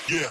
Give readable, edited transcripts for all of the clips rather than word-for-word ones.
Yeah.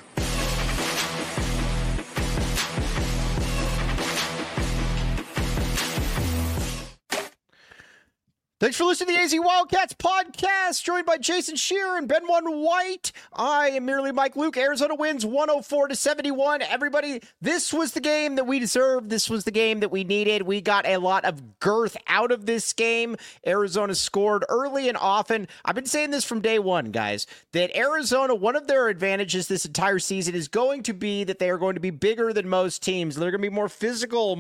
Thanks for listening to the AZ Wildcats podcast, joined by Jason Shearer and Ben One White. I am merely Mike Luke. Arizona wins 104-71. Everybody, this was the game that we deserved. This was the game that we needed. We got a lot of girth out of this game. Arizona scored early and often. I've been saying this from day one, guys, that Arizona, one of their advantages this entire season is going to be that they are going to be bigger than most teams. They're going to be more physical,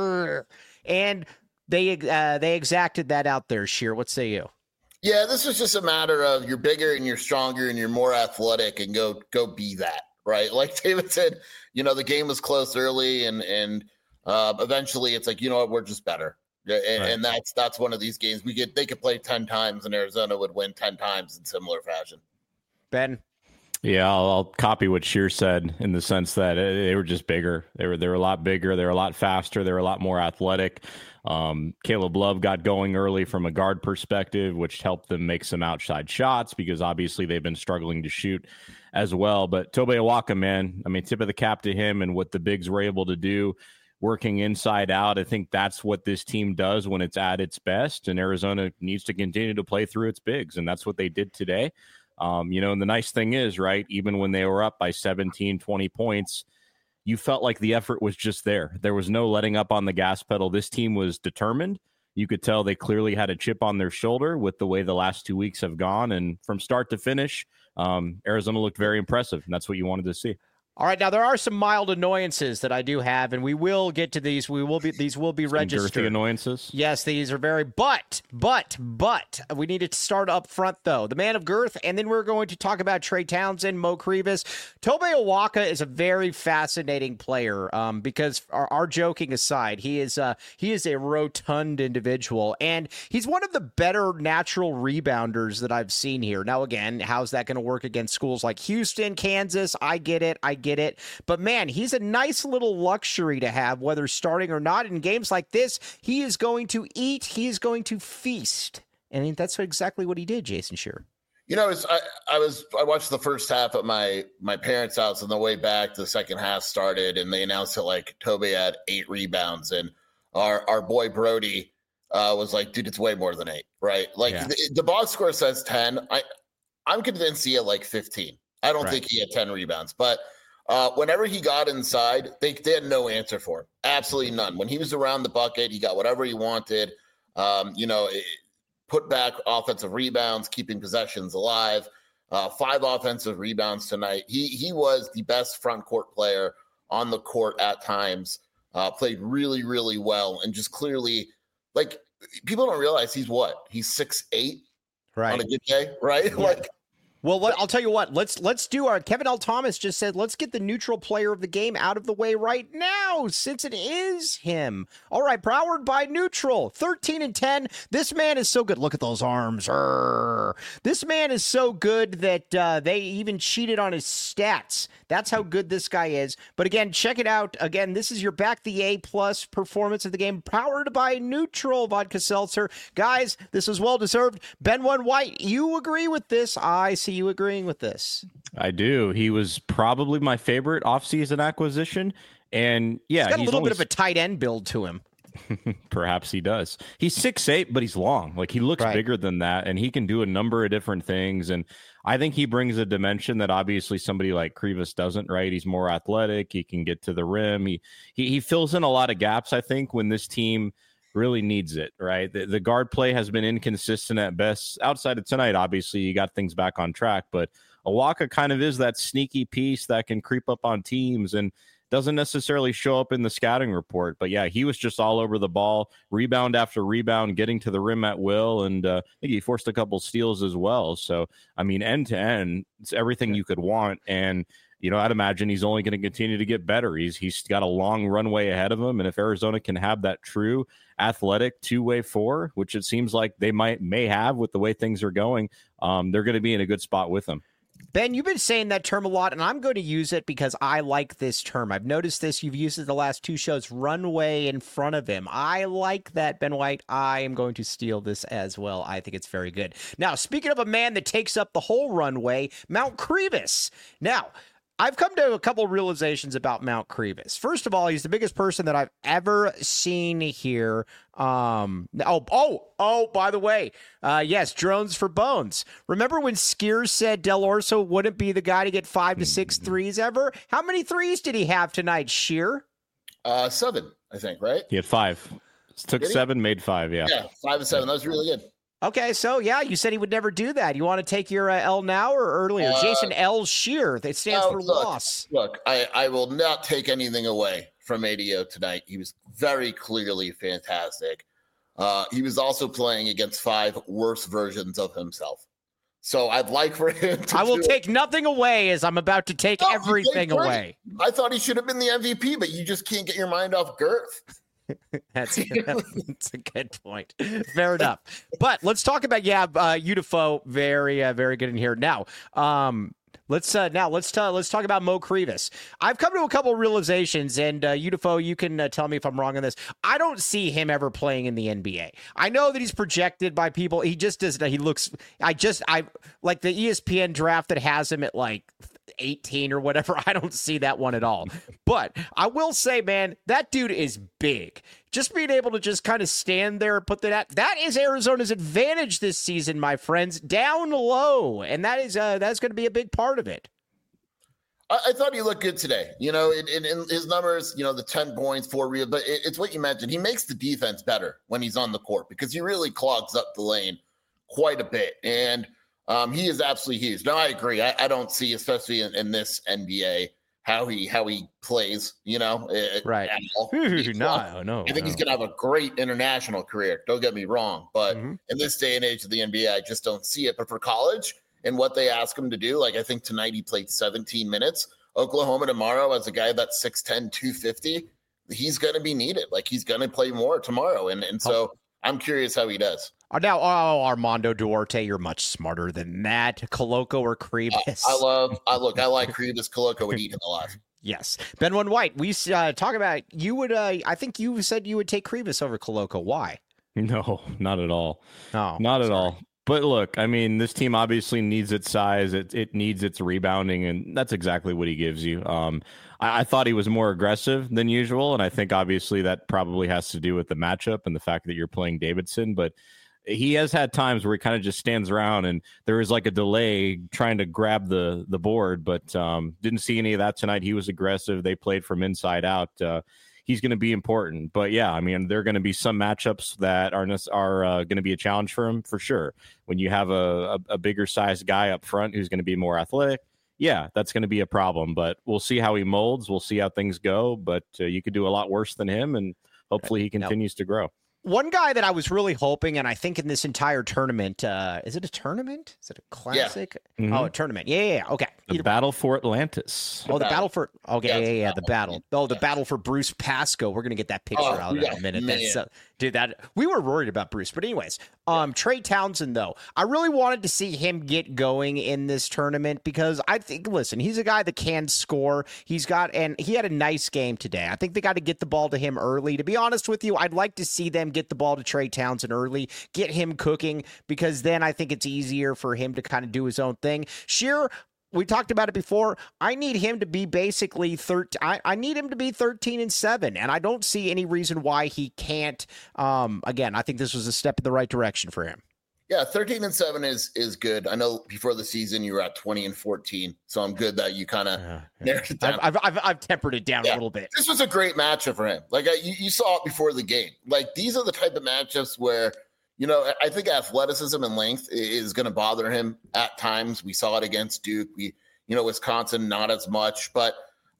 and They exacted that out there, Sheer. What say you? Yeah, this was just a matter of you're bigger and you're stronger and you're more athletic and go be that, right? Like David said, the game was close early and eventually it's like, you know what, we're just better. And that's one of these games they could play 10 times and Arizona would win 10 times in similar fashion. Ben? Yeah, I'll copy what Sheer said in the sense that they were just bigger. They were a lot bigger. They were a lot faster. They were a lot more athletic. Caleb Love got going early from a guard perspective, which helped them make some outside shots because obviously they've been struggling to shoot as well. But Tobe Awaka, man, I mean, tip of the cap to him and what the bigs were able to do working inside out. I think that's what this team does when it's at its best, and Arizona needs to continue to play through its bigs, and that's what they did today. And the nice thing is, right, even when they were up by 17, 20 points, you felt like the effort was just there. There was no letting up on the gas pedal. This team was determined. You could tell they clearly had a chip on their shoulder with the way the last 2 weeks have gone. And from start to finish, Arizona looked very impressive, and that's what you wanted to see. All right, now there are some mild annoyances that I do have, and we will get to these. These will be registered. Girthy annoyances. Yes, these are very. But we need to start up front though. The man of girth, and then we're going to talk about Trey Townsend, Mo Krivas. Tobe Awaka is a very fascinating player because our joking aside, he is a rotund individual, and he's one of the better natural rebounders that I've seen here. Now, again, how's that going to work against schools like Houston, Kansas? I get it. But man, he's a nice little luxury to have, whether starting or not. In games like this, he is going to eat, he is going to feast. And that's exactly what he did, Jason Shearer. I watched the first half at my parents' house, and the way back the second half started, and they announced that like Tobe had 8 rebounds, and our boy Brody was like, dude, it's way more than 8, right? Like the box score says 10. I'm convinced he had like 15. I don't think he had 10 rebounds, but whenever he got inside, they had no answer for him. Absolutely none. When he was around the bucket, he got whatever he wanted. Put back offensive rebounds, keeping possessions alive. 5 offensive rebounds tonight. He was the best front court player on the court at times. Played really, really well, and just clearly, like, people don't realize he's 6'8", right, on a good day, right? Yeah. Well, I'll tell you what. Let's do our. Kevin L. Thomas just said, let's get the neutral player of the game out of the way right now, since it is him. All right, powered by Neutral, 13-10. This man is so good. Look at those arms. This man is so good that they even cheated on his stats. That's how good this guy is. But again, check it out. Again, this is your back the A+ performance of the game, powered by Neutral Vodka Seltzer. Guys, this was well deserved. Ben One White, you agree with this? I see you agreeing with this. I do. He was probably my favorite offseason acquisition. And yeah, he's got a little bit of a tight end build to him. Perhaps he does. He's 6'8", but he's long. Like, he looks bigger than that, and he can do a number of different things. And I think he brings a dimension that obviously somebody like Krivas doesn't, right? He's more athletic. He can get to the rim. He fills in a lot of gaps, I think, when this team really needs it, right? The guard play has been inconsistent at best. Outside of tonight, obviously, you got things back on track, but Awaka kind of is that sneaky piece that can creep up on teams and doesn't necessarily show up in the scouting report. But yeah, he was just all over the ball, rebound after rebound, getting to the rim at will, and I think he forced a couple steals as well. So, I mean, end to end, it's everything you could want. And I'd imagine he's only going to continue to get better. He's got a long runway ahead of him, and if Arizona can have that true athletic two-way 4, which it seems like they may have with the way things are going, they're going to be in a good spot with him. Ben, you've been saying that term a lot, and I'm going to use it because I like this term. I've noticed this. You've used it the last 2 shows, runway in front of him. I like that, Ben White. I am going to steal this as well. I think it's very good. Now, speaking of a man that takes up the whole runway, Mount Krivas. Now, I've come to a couple realizations about Mount Krivas. First of all, he's the biggest person that I've ever seen here. By the way, yes, drones for bones. Remember when Skiers said Del Orso wouldn't be the guy to get 5 to 6 threes ever? How many threes did he have tonight, Sheer? 7, I think, right? He had 5. Took 7, made 5, yeah. Yeah, 5 and 7. That was really good. Okay, so yeah, you said he would never do that. You want to take your L now or earlier? Jason L. Sheer. That stands for loss. Look, I will not take anything away from ADO tonight. He was very clearly fantastic. He was also playing against 5 worse versions of himself. So I'd like for him to I will take nothing away as I'm about to take everything away. I thought he should have been the MVP, but you just can't get your mind off Girth. That's a good point. Fair enough. But let's talk about Udifo. Very very good in here. Now, let's talk about Mo Krivas. I've come to a couple of realizations, and Udifo, you can tell me if I'm wrong on this. I don't see him ever playing in the NBA. I know that he's projected by people. He just doesn't. He looks. I like the ESPN draft that has him at like 18 or whatever. I don't see that one at all. But I will say, man, that dude is big. Just being able to just kind of stand there and put that is Arizona's advantage this season, my friends, down low. And that's going to be a big part of it. I thought he looked good today. You know, in his numbers, you know, the 10 points, 4 real, but it's what you mentioned. He makes the defense better when he's on the court because he really clogs up the lane quite a bit. And he is absolutely huge. No, I agree. I don't see, especially in this NBA, how he plays, you know, right. At all. No. I think he's going to have a great international career. Don't get me wrong. But in this day and age of the NBA, I just don't see it. But for college and what they ask him to do, like I think tonight he played 17 minutes. Oklahoma tomorrow as a guy that's 6'10", 250, he's going to be needed. Like he's going to play more tomorrow. And so I'm curious how he does. Now, Armando Duarte, you're much smarter than that. Koloko or Krivas? I like Krivas. Koloko would eat him alive. Yes. Ben One White, we talk about, you would, I think you said you would take Krivas over Koloko. Why? No, not at all. No, not at all. But look, I mean, this team obviously needs its size. It needs its rebounding, and that's exactly what he gives you. I thought he was more aggressive than usual, and I think obviously that probably has to do with the matchup and the fact that you're playing Davidson, but he has had times where he kind of just stands around and there is like a delay trying to grab the board, but didn't see any of that tonight. He was aggressive. They played from inside out. He's going to be important. But yeah, I mean, there are going to be some matchups that are going to be a challenge for him for sure. When you have a bigger sized guy up front who's going to be more athletic, yeah, that's going to be a problem. But we'll see how he molds. We'll see how things go. But you could do a lot worse than him, and hopefully he continues to grow. One guy that I was really hoping, and I think in this entire tournament, is it a tournament? Is it a classic? Yeah. Mm-hmm. Oh, a tournament. Yeah. Okay. The Battle for Atlantis. The battle for. Okay. Yeah. The battle. Oh, the battle for Bruce Pascoe. We're gonna get that picture out in a minute. That's, we were worried about Bruce, but anyways, Trey Townsend though, I really wanted to see him get going in this tournament because I think, listen, he's a guy that can score. He had a nice game today. I think they got to get the ball to him early. To be honest with you, I'd like to see them get the ball to Trey Townsend early, get him cooking, because then I think it's easier for him to kind of do his own thing. Sheer, we talked about it before. I need him to be basically 13. I need him to be 13-7, and I don't see any reason why he can't. Again, I think this was a step in the right direction for him. Yeah, 13-7 is good. I know before the season you were at 20-14, so I'm good that you kind of narrowed it down. I've tempered it down a little bit. This was a great matchup for him. Like you saw it before the game. Like these are the type of matchups where, you know, I think athleticism and length is going to bother him at times. We saw it against Duke. Wisconsin not as much, but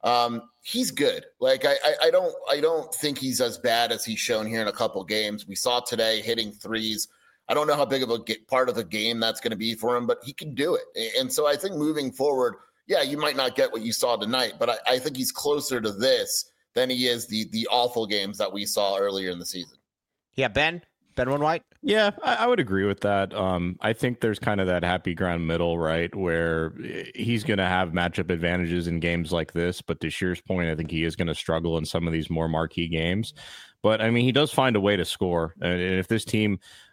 he's good. Like I don't think he's as bad as he's shown here in a couple games. We saw today hitting threes. I don't know how big of a part of the game that's going to be for him, but he can do it. And so I think moving forward, yeah, you might not get what you saw tonight, but I think he's closer to this than he is the awful games that we saw earlier in the season. Yeah, Ben One White? Yeah, I would agree with that. I think there's kind of that happy ground middle, right, where he's going to have matchup advantages in games like this. But to Sheer's point, I think he is going to struggle in some of these more marquee games. But, I mean, he does find a way to score. And if this team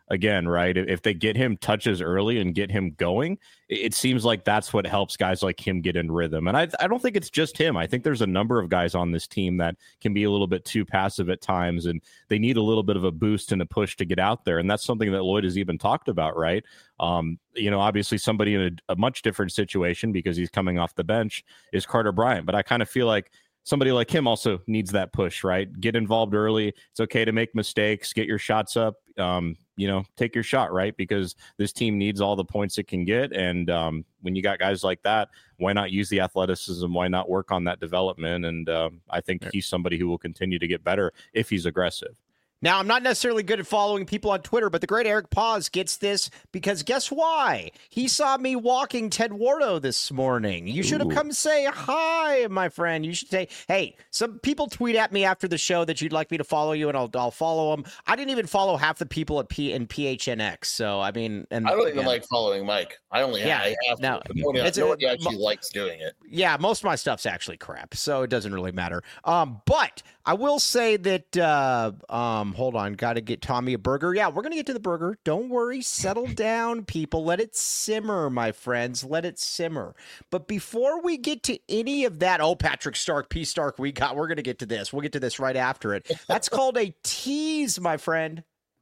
again, right, if they get him touches early and get him going, it seems like that's what helps guys like him get in rhythm. And I don't think it's just him. I think there's a number of guys on this team that can be a little bit too passive at times, and they need a little bit of a boost and a push to get out there. And that's something that Lloyd has even talked about, right? Obviously somebody in a much different situation because he's coming off the bench is Carter Bryant. But I kind of feel like somebody like him also needs that push, right? Get involved early. It's okay to make mistakes, get your shots up, take your shot, right? Because this team needs all the points it can get. And when you got guys like that, why not use the athleticism? Why not work on that development? And I think he's somebody who will continue to get better if he's aggressive. Now, I'm not necessarily good at following people on Twitter, but the great Eric Paz gets this because guess why? He saw me walking Ted Wardo this morning. You should have come say hi, my friend. You should say, hey, some people tweet at me after the show that you'd like me to follow you, and I'll follow them. I didn't even follow half the people at PHNX. So, I mean, and I don't even like following Mike. I only have now, nobody actually likes doing it. Yeah, most of my stuff's actually crap, so it doesn't really matter. But I will say that hold on, got to get Tommy a burger. Yeah, we're going to get to the burger. Don't worry. Settle down, people. Let it simmer, my friends. Let it simmer. But before we get to any of that, Patrick Stark, P. Stark, we're going to get to this. We'll get to this right after it. That's called a tease, my friend.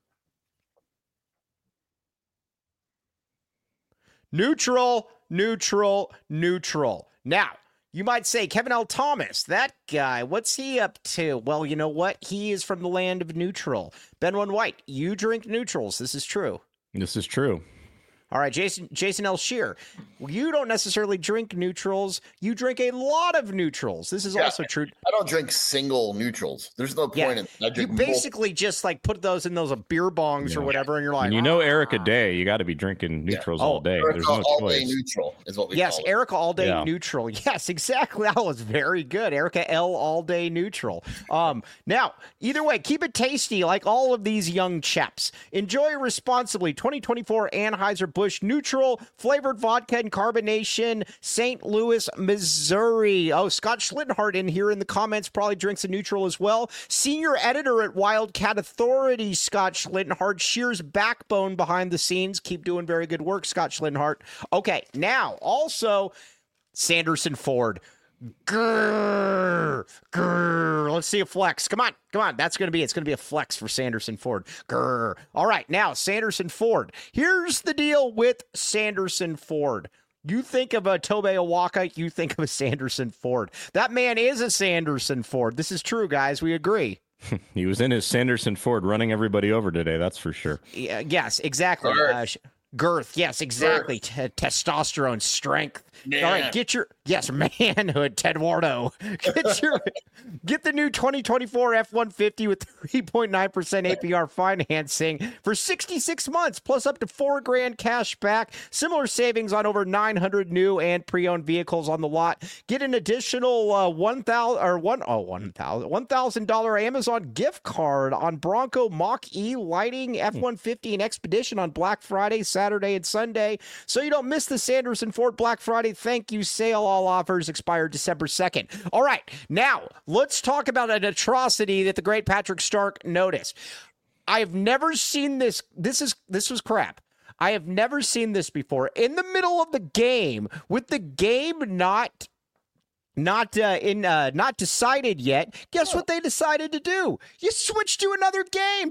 Neutral. Now, you might say, Kevin L. Thomas, that guy, what's he up to? Well, you know what? He is from the land of neutral. Benwin White, you drink neutrals. This is true. This is true. All right, Jason L. Shear, you don't necessarily drink neutrals. You drink a lot of neutrals. This is also true. I don't drink single neutrals. There's no point in I drink you basically just like put those in those beer bongs or whatever, and you're like, and Erica Day, you got to be drinking neutrals all day. There's no choice. Day neutral is what we call it. Erica All Day Neutral. Yes, exactly. That was very good. Erica L. All Day Neutral. Now, either way, keep it tasty like all of these young chaps. Enjoy responsibly. 2024 Anheuser-Busch Neutral flavored vodka and carbonation, St. Louis, Missouri. Oh, Scott Schlittenhart in here in the comments probably drinks a neutral as well. Senior editor at Wildcat Authority, Scott Schlittenhart. Shear's backbone behind the scenes. Keep doing very good work, Scott Schlittenhart. Okay, now also Sanderson Ford. Grrr. Let's see a flex. Come on. It's going to be a flex for Sanderson Ford. Grrr. All right. Now, Sanderson Ford. Here's the deal with Sanderson Ford. You think of a Tobe Awaka, you think of a Sanderson Ford. That man is a Sanderson Ford. This is true, guys. We agree. He was in his Sanderson Ford running everybody over today. That's for sure. Yes, exactly. Girth. Yes, exactly. Testosterone, strength. Man. All right, get your manhood, Ted Wardo. Get the new 2024 F-150 with 3.9% APR financing for 66 months, plus up to $4,000 cash back. Similar savings on over 900 new and pre-owned vehicles on the lot. Get an additional $1,000 Amazon gift card on Bronco Mach-E lighting, F-150 and Expedition on Black Friday, Saturday, and Sunday. So you don't miss the Sanderson Ford Black Friday thank you sale. All offers expire December 2nd. All right, now let's talk about an atrocity that the great Patrick Stark noticed. I have never seen this. This was crap. I have never seen this before. In the middle of the game, with the game not decided yet, guess what they decided to do? You switched to another game.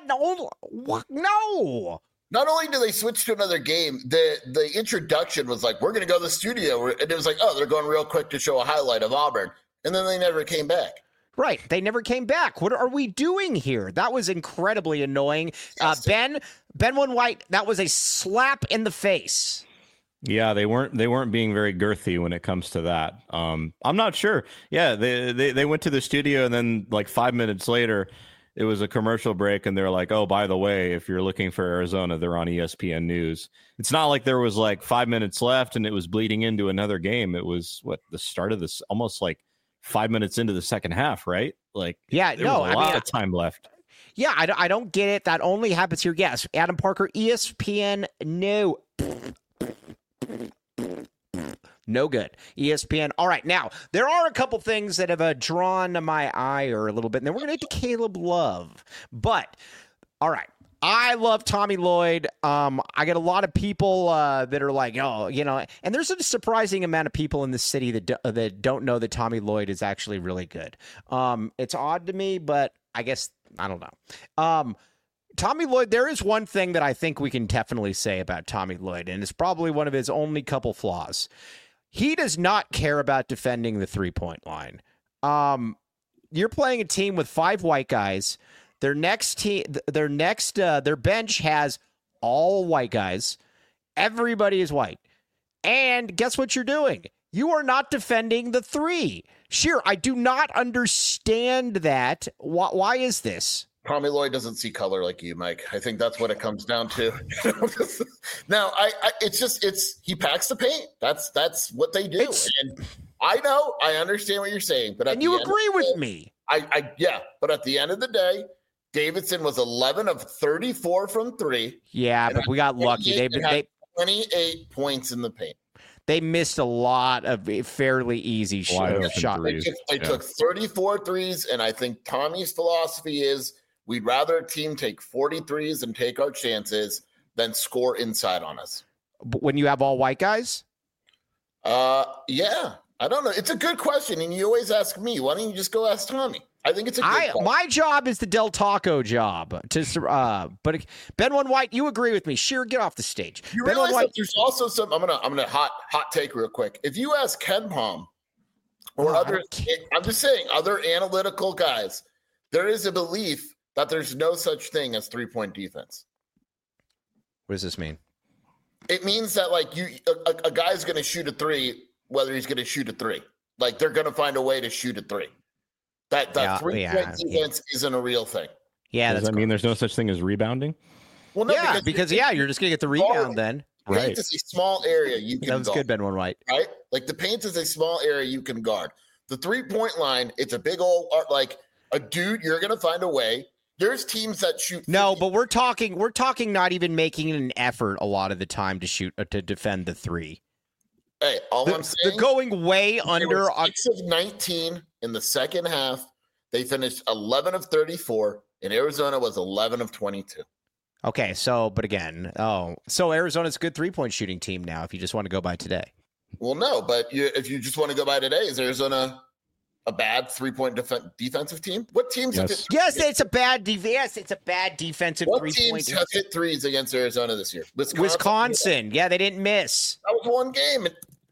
No. Not only do they switch to another game, the introduction was like, we're going to go to the studio. And it was like, oh, they're going real quick to show a highlight of Auburn. And then they never came back. Right. They never came back. What are we doing here? That was incredibly annoying. Benwin White, that was a slap in the face. Yeah, they weren't being very girthy when it comes to that. I'm not sure. Yeah, they went to the studio and then like 5 minutes later, it was a commercial break and they're like, oh, by the way, if you're looking for Arizona, they're on ESPN News. It's not like there was like 5 minutes left and it was bleeding into another game. It was the start of this, almost like 5 minutes into the second half, right? Like, yeah, there was a lot of time left. Yeah, I don't get it. That only happens here. Yes, Adam Parker, ESPN, no. No good. ESPN. All right. Now, there are a couple things that have drawn my ire a little bit, and then we're going to get to Caleb Love. But, all right. I love Tommy Lloyd. I get a lot of people that are like, oh, and there's a surprising amount of people in this city that don't know that Tommy Lloyd is actually really good. It's odd to me, but I guess I don't know. Tommy Lloyd, there is one thing that I think we can definitely say about Tommy Lloyd, and it's probably one of his only couple flaws. He does not care about defending the 3-point line. You're playing a team with 5 white guys. Their bench has all white guys. Everybody is white. And guess what you're doing? You are not defending the 3. Sure, I do not understand that. Why is this? Tommy Lloyd doesn't see color like you, Mike. I think that's what it comes down to. Now, he packs the paint. That's what they do. And I understand what you're saying, but you agree with me. Yeah, but at the end of the day, Davidson was 11 of 34 from 3. Yeah, but we got lucky. They 28 points in the paint. They missed a lot of fairly easy shots. They took 34 threes, and I think Tommy's philosophy is we'd rather a team take 40 threes and take our chances than score inside on us. But when you have all white guys? Yeah. I don't know. It's a good question, and you always ask me. Why don't you just go ask Tommy? I think it's a good question. My job is the Del Taco job. But Ben One White, you agree with me? Sure, get off the stage. You realize that there's also some. I'm gonna hot take real quick. If you ask Ken Palm or others, I'm just saying other analytical guys, there is a belief that there's no such thing as 3-point defense. What does this mean? It means that a guy's going to shoot a 3. Whether he's going to shoot a 3, like they're going to find a way to shoot a 3. That 3-point defense isn't a real thing. Yeah, does that mean there's no such thing as rebounding? Well, no, because you're just going to get the rebound then. Right, paint is a small area you can. That was good, Ben One White. Right, like the paint is a small area you can guard. The 3-point line, it's a big old like a dude. You're going to find a way. There's teams that shoot. 50. No, but we're talking not even making an effort a lot of the time to defend the 3. Hey, I'm saying, they're going way under. 6 of 19 in the second half. They finished 11 of 34, and Arizona was 11 of 22. Okay, so Arizona's a good 3-point shooting team now. If you just want to go by today. Well, no, but if you just want to go by today, is Arizona a bad 3-point defensive team? What teams? Yes, it's a bad defense. It's a bad defensive 3-point. What teams have hit threes against Arizona this year? Wisconsin. Yeah, they didn't miss. That was one game.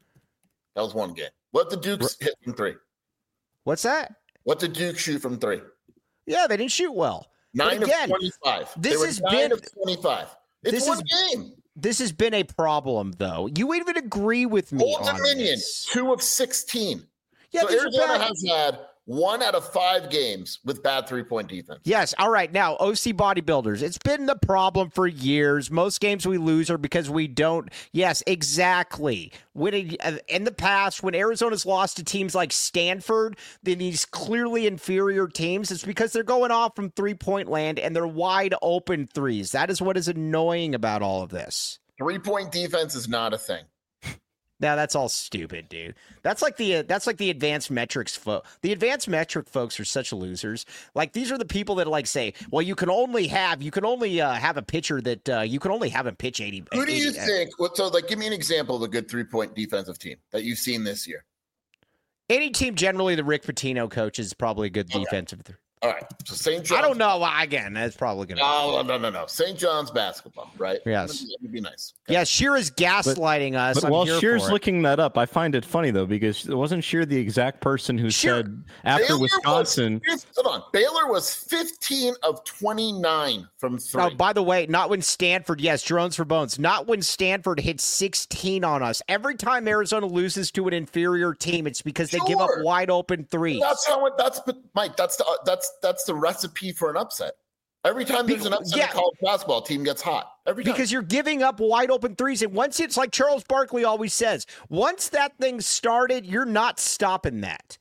What the Dukes hit from 3? What's that? What did Duke shoot from 3? Yeah, they didn't shoot well. 9 of 25. This has been 9 of 25. It's one game. This has been a problem, though. You even agree with me Old on Dominion, this. 2 of 16. Yeah, so Arizona has had 1 out of 5 games with bad 3-point defense. Yes. All right. Now, OC Bodybuilders. It's been the problem for years. Most games we lose are because we don't. Yes, exactly. In the past, when Arizona's lost to teams like Stanford, then these clearly inferior teams, it's because they're going off from 3-point land and they're wide open threes. That is what is annoying about all of this. 3-point defense is not a thing. Now that's all stupid, dude. That's like the advanced metrics the advanced metric folks are such losers. Like these are the people that like say, well, you can only have a pitcher that you can only have him pitch 80. Who do you think? So give me an example of a good 3-point defensive team that you've seen this year. Any team, generally, the Rick Pitino coach is probably a good defensive. All right. So St. John's. I don't know. Again, that's probably going to. No. St. John's basketball, right? Yes. It would be nice. Okay. Yeah, Shear is gaslighting us. But while Shear's looking that up, I find it funny, though, because it wasn't Shear the exact person who said after Baylor Wisconsin. Hold on. Baylor was 15 of 29 from 3. Oh, by the way, not when Stanford, yes, Drones for Bones, not when Stanford hit 16 on us. Every time Arizona loses to an inferior team, it's because they give up wide open threes. Mike, that's the recipe for an upset. Every time there's an upset in college basketball, team gets hot. Every time. Because you're giving up wide open threes. And once it's like Charles Barkley always says, once that thing started, you're not stopping that.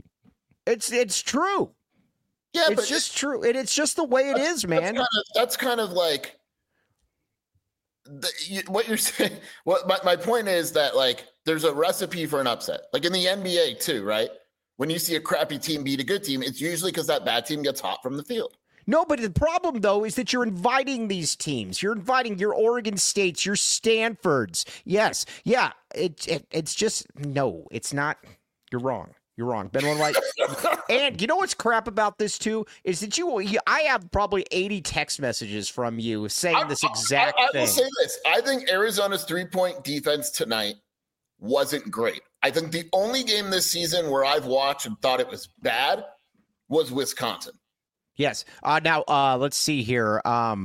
It's true. Yeah, it's just true. And it's just the way it is, man. That's kind of like what you're saying. What my point is that there's a recipe for an upset. Like in the NBA too, right? When you see a crappy team beat a good team, it's usually because that bad team gets hot from the field. No, but the problem, though, is that you're inviting these teams. You're inviting your Oregon States, your Stanfords. Yes. Yeah. It's just, no, it's not. You're wrong. You're wrong. Ben One White. And you know what's crap about this, too, is that I have probably 80 text messages from you saying this exact thing. I will say this. I think Arizona's 3-point defense tonight wasn't great. I think the only game this season where I've watched and thought it was bad was Wisconsin. Yes. Now, let's see here.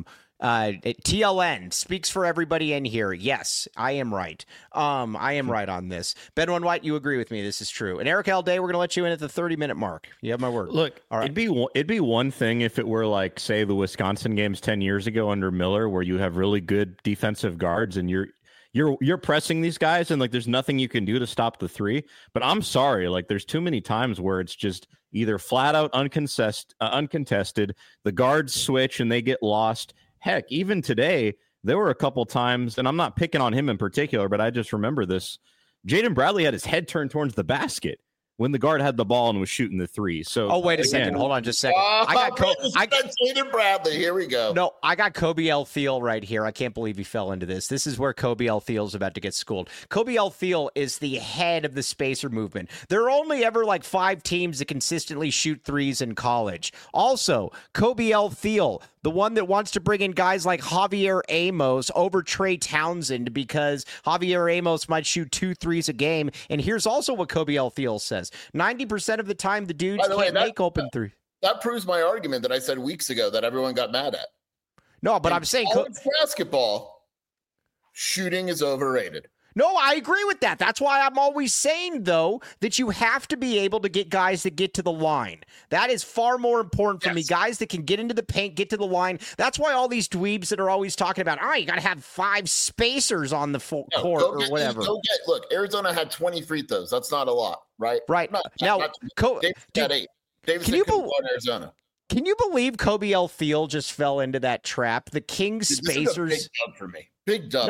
TLN speaks for everybody in here. Yes, I am right. I am right on this. Ben One White, you agree with me. This is true. And Eric Alday, we're going to let you in at the 30-minute mark. You have my word. Look, all right. It'd be one thing if it were like, say, the Wisconsin games 10 years ago under Miller, where you have really good defensive guards and you're pressing these guys and like there's nothing you can do to stop the three. But I'm sorry, like there's too many times where it's just either flat out uncontested, the guards switch and they get lost. Heck, even today, there were a couple times, and I'm not picking on him in particular, but I just remember this. Jaden Bradley had his head turned towards the basket when the guard had the ball and was shooting the three. So, wait a second. Hold on just a second. I got Jaden Bradley. Here we go. No, I got Kobe L. Thiel right here. I can't believe he fell into this. This is where Kobe L. Thiel's about to get schooled. Kobe L. Thiel is the head of the spacer movement. There are only ever like 5 teams that consistently shoot threes in college. Also, Kobe L. Thiel, the one that wants to bring in guys like Javier Amos over Trey Townsend because Javier Amos might shoot 2 threes a game. And here's also what Kobe L. Thiel says. 90% of the time, the dudes can't make open three. That proves my argument that I said weeks ago that everyone got mad at. No, but I'm saying college basketball shooting is overrated. No, I agree with that. That's why I'm always saying, though, that you have to be able to get guys that get to the line. That is far more important for me. Guys that can get into the paint, get to the line. That's why all these dweebs that are always talking about, you got to have 5 spacers on the court or whatever. Look, Arizona had 20 free throws. That's not a lot, right? Right. Davis had 8. Davis couldn't go in Arizona. Can you believe Kobe L. Thiel just fell into that trap? The Kings spacers. This is a big dub for me. Big dub.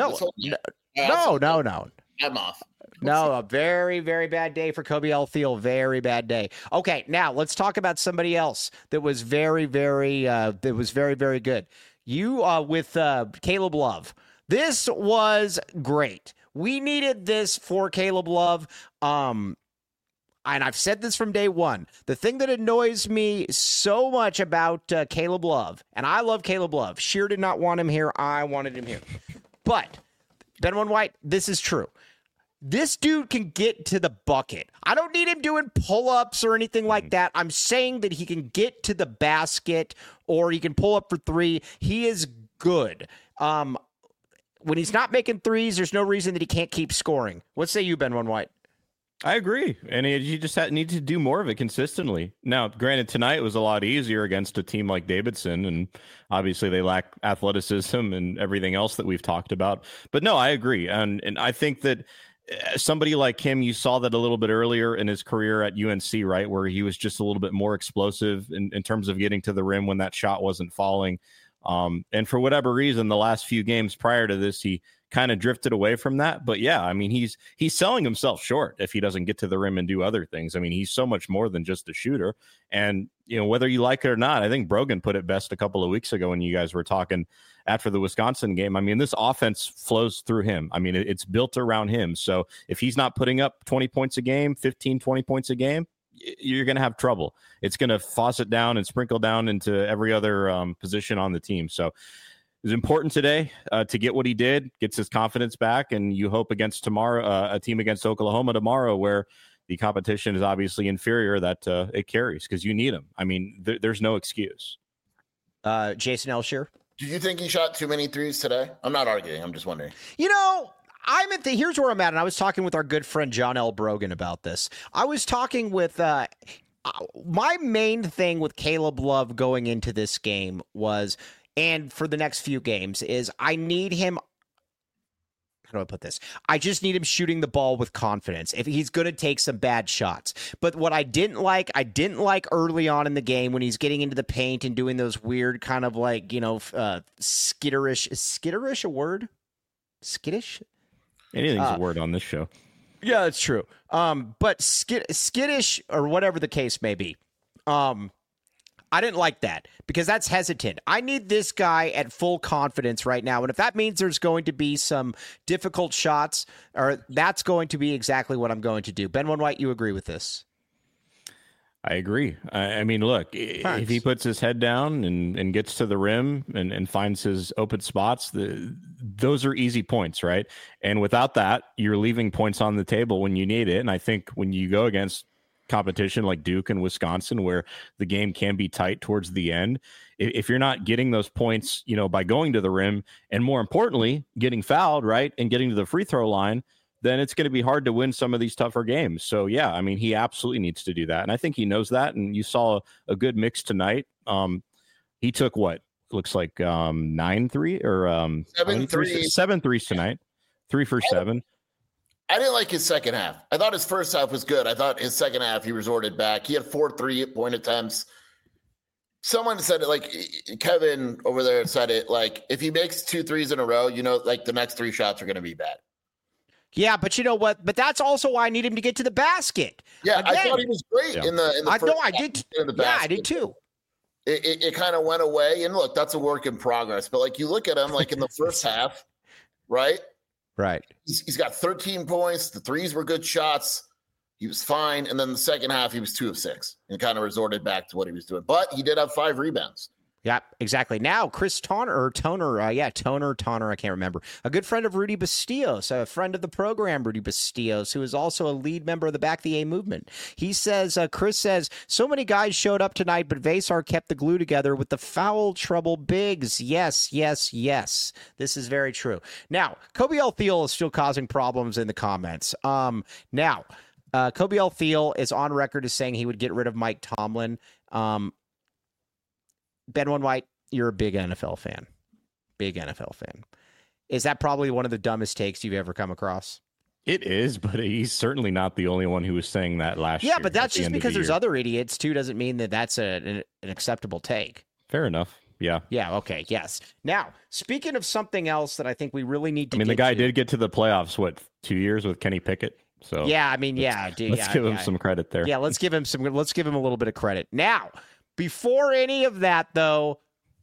No. I'm off. No, a very, very bad day for Kobe L. Thiel. Very bad day. Okay, now let's talk about somebody else that was very, very good. You with Caleb Love. This was great. We needed this for Caleb Love. And I've said this from day one. The thing that annoys me so much about Caleb Love, and I love Caleb Love. Sheer did not want him here. I wanted him here. But, Ben One White, this is true. This dude can get to the bucket. I don't need him doing pull-ups or anything like that. I'm saying that he can get to the basket or he can pull up for 3. He is good. When he's not making threes, there's no reason that he can't keep scoring. What say you, Ben One White? I agree. And you just need to do more of it consistently. Now, granted, tonight was a lot easier against a team like Davidson, and obviously they lack athleticism and everything else that we've talked about. But no, I agree. And I think that somebody like him, you saw that a little bit earlier in his career at UNC, right, where he was just a little bit more explosive in terms of getting to the rim when that shot wasn't falling. And for whatever reason, the last few games prior to this, he kind of drifted away from that. But yeah, I mean, he's selling himself short if he doesn't get to the rim and do other things. I mean, he's so much more than just a shooter. And, you know, whether you like it or not, I think Brogan put it best a couple of weeks ago when you guys were talking after the Wisconsin game. I mean, this offense flows through him. I mean, it's built around him. So if he's not putting up 20 points a game, 15, 20 points a game, you're going to have trouble. It's going to faucet down and sprinkle down into every other position on the team. So it was important today to get what he did, gets his confidence back, and you hope against tomorrow, a team against Oklahoma tomorrow, where the competition is obviously inferior, that it carries because you need him. I mean, there's no excuse. Jason Elsher. Do you think he shot too many threes today? I'm not arguing. I'm just wondering. You know, here's where I'm at, and I was talking with our good friend John L. Brogan about this. I was talking with my main thing with Caleb Love going into this game was, and for the next few games, is I need him. How do I put this? I just need him shooting the ball with confidence. If he's going to take some bad shots. But what I didn't like early on in the game when he's getting into the paint and doing those weird kind of like, you know, skitterish. Is skitterish a word? Skittish? Anything's a word on this show. Yeah, that's true. But skittish or whatever the case may be. I I didn't like that because that's hesitant. I need this guy at full confidence right now. And if that means there's going to be some difficult shots, or that's going to be exactly what I'm going to do. Ben White, you agree with this? I agree. I mean, look, if he puts his head down and gets to the rim and finds his open spots, those are easy points, right? And without that, you're leaving points on the table when you need it. And I think when you go against competition like Duke and Wisconsin, where the game can be tight towards the end, if you're not getting those points, by going to the rim and more importantly, getting fouled, right, and getting to the free throw line, then it's going to be hard to win some of these tougher games. So, yeah, I mean, he absolutely needs to do that. And I think he knows that. And you saw a good mix tonight. He took what looks like 9-3 or 7 threes tonight, 3 for 7. I didn't like his second half. I thought his first half was good. I thought his second half, he resorted back. He had 4 3-point attempts. Someone said it, like Kevin over there said it, like if he makes 2 threes in a row, like the next 3 shots are going to be bad. Yeah, but you know what? But that's also why I need him to get to the basket. Yeah, again, I thought he was great in the first half. I did. Yeah, I did too. It kind of went away. And look, that's a work in progress. But like you look at him, like in the first half, right? Right. He's got 13 points. The threes were good shots. He was fine. And then the second half, he was 2 of 6 and kind of resorted back to what he was doing. But he did have 5 rebounds. Yeah, exactly. Now, Chris Toner, I can't remember. A good friend of Rudy Bastillos, a friend of the program, Rudy Bastillos, who is also a lead member of the Back the A movement. He says, Chris says, so many guys showed up tonight, but Vasar kept the glue together with the foul trouble bigs. Yes, yes, yes. This is very true. Now, Kobe L. Thiel is still causing problems in the comments. Now, Kobe L. Thiel is on record as saying he would get rid of Mike Tomlin. Ben White, you're a big NFL fan. Big NFL fan. Is that probably one of the dumbest takes you've ever come across? It is, but he's certainly not the only one who was saying that last year. Yeah, but that's just because there's other idiots, too, doesn't mean that that's an acceptable take. Fair enough. Yeah. Yeah, okay, yes. Now, speaking of something else that I think we really need to the guy did get to the playoffs, 2 years with Kenny Pickett? So yeah, I mean, let's give him some credit there. Yeah, let's give him a little bit of credit. Now, before any of that, though,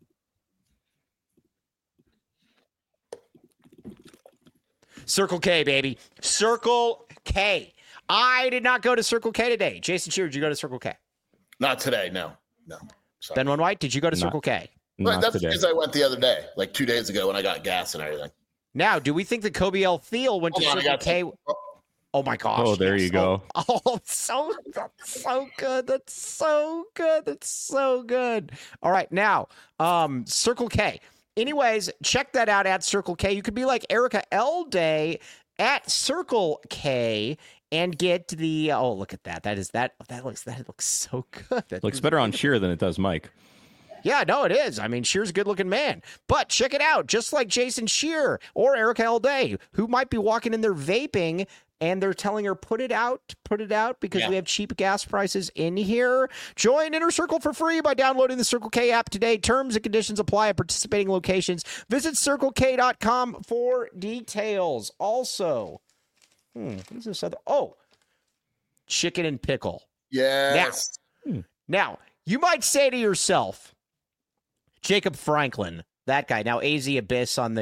Circle K, baby. Circle K. I did not go to Circle K today. Jason Shearer, did you go to Circle K? Not today, no. Sorry. Ben White, did you go to Circle K? Well, that's today. Because I went the other day, like 2 days ago when I got gas and everything. Now, do we think that Kobe L. Thiel went to Circle K? Oh my gosh! Oh, there you go. That's so good. That's so good. That's so good. All right, now, Circle K. Anyways, check that out at Circle K. You could be like Erica L. Day at Circle K and get the. Oh, look at that. That looks so good. That looks better on Shearer than it does Mike. Yeah, no, it is. I mean, Shearer's a good-looking man. But check it out. Just like Jason Shearer or Erica L. Day, who might be walking in there vaping, and they're telling her, put it out, because we have cheap gas prices in here. Join Inner Circle for free by downloading the Circle K app today. Terms and conditions apply at participating locations. Visit CircleK.com for details. Also, what's this other? Oh, chicken and pickle. Yes. Now, you might say to yourself, Jacob Franklin, that guy. Now, AZ Abyss on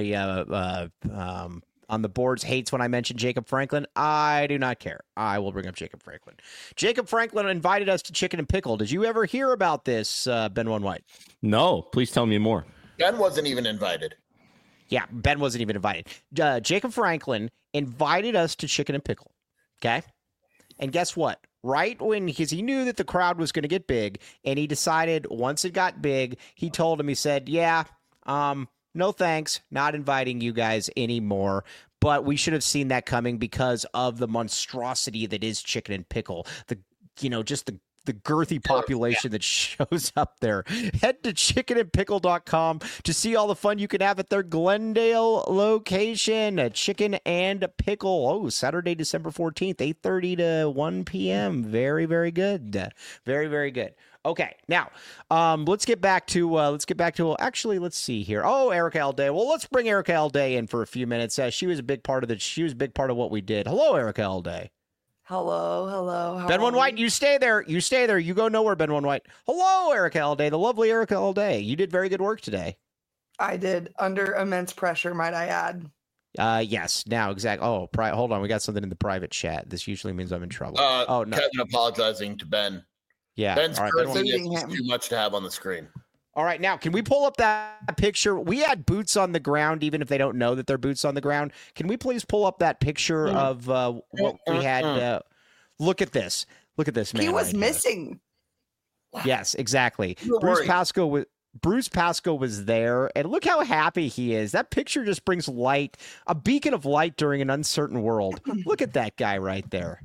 the boards hates when I mention Jacob Franklin. I do not care. I will bring up Jacob Franklin. Jacob Franklin invited us to Chicken and Pickle. Did you ever hear about this, Ben White? No. Please tell me more. Ben wasn't even invited. Yeah, Ben wasn't even invited. Jacob Franklin invited us to Chicken and Pickle. Okay? And guess what? Right when, because he knew that the crowd was going to get big, and he decided once it got big, he told him, he said, yeah, no thanks, not inviting you guys anymore. But we should have seen that coming because of the monstrosity that is Chicken and Pickle. Just the girthy population that shows up there. Head to chickenandpickle.com to see all the fun you can have at their Glendale location. Chicken and Pickle. Oh, Saturday, December 14th, 8:30 to 1 p.m. Very, very good. Very, very good. Okay, now let's get back to actually, let's see here. Oh, Erica L. Day. Well, let's bring Erica L. Day in for a few minutes. She was a big part of what we did. Hello, Erica L. Day. Hello. Ben One White, you stay there. You go nowhere, Ben One White. Hello, Erica Alday, the lovely Erica Alday. You did very good work today. I did, under immense pressure, might I add. Yes. Now, exactly. Oh, hold on. We got something in the private chat. This usually means I'm in trouble. Oh, no. Kevin apologizing to Ben. Yeah. Ben's cursing is too much to have on the screen. All right, now, can we pull up that picture? We had boots on the ground, even if they don't know that they're boots on the ground. Can we please pull up that picture of what we had? Look at this. Look at this, man. He was missing. Yes, exactly. Bruce Pascoe was there, and look how happy he is. That picture just brings light, a beacon of light during an uncertain world. Look at that guy right there.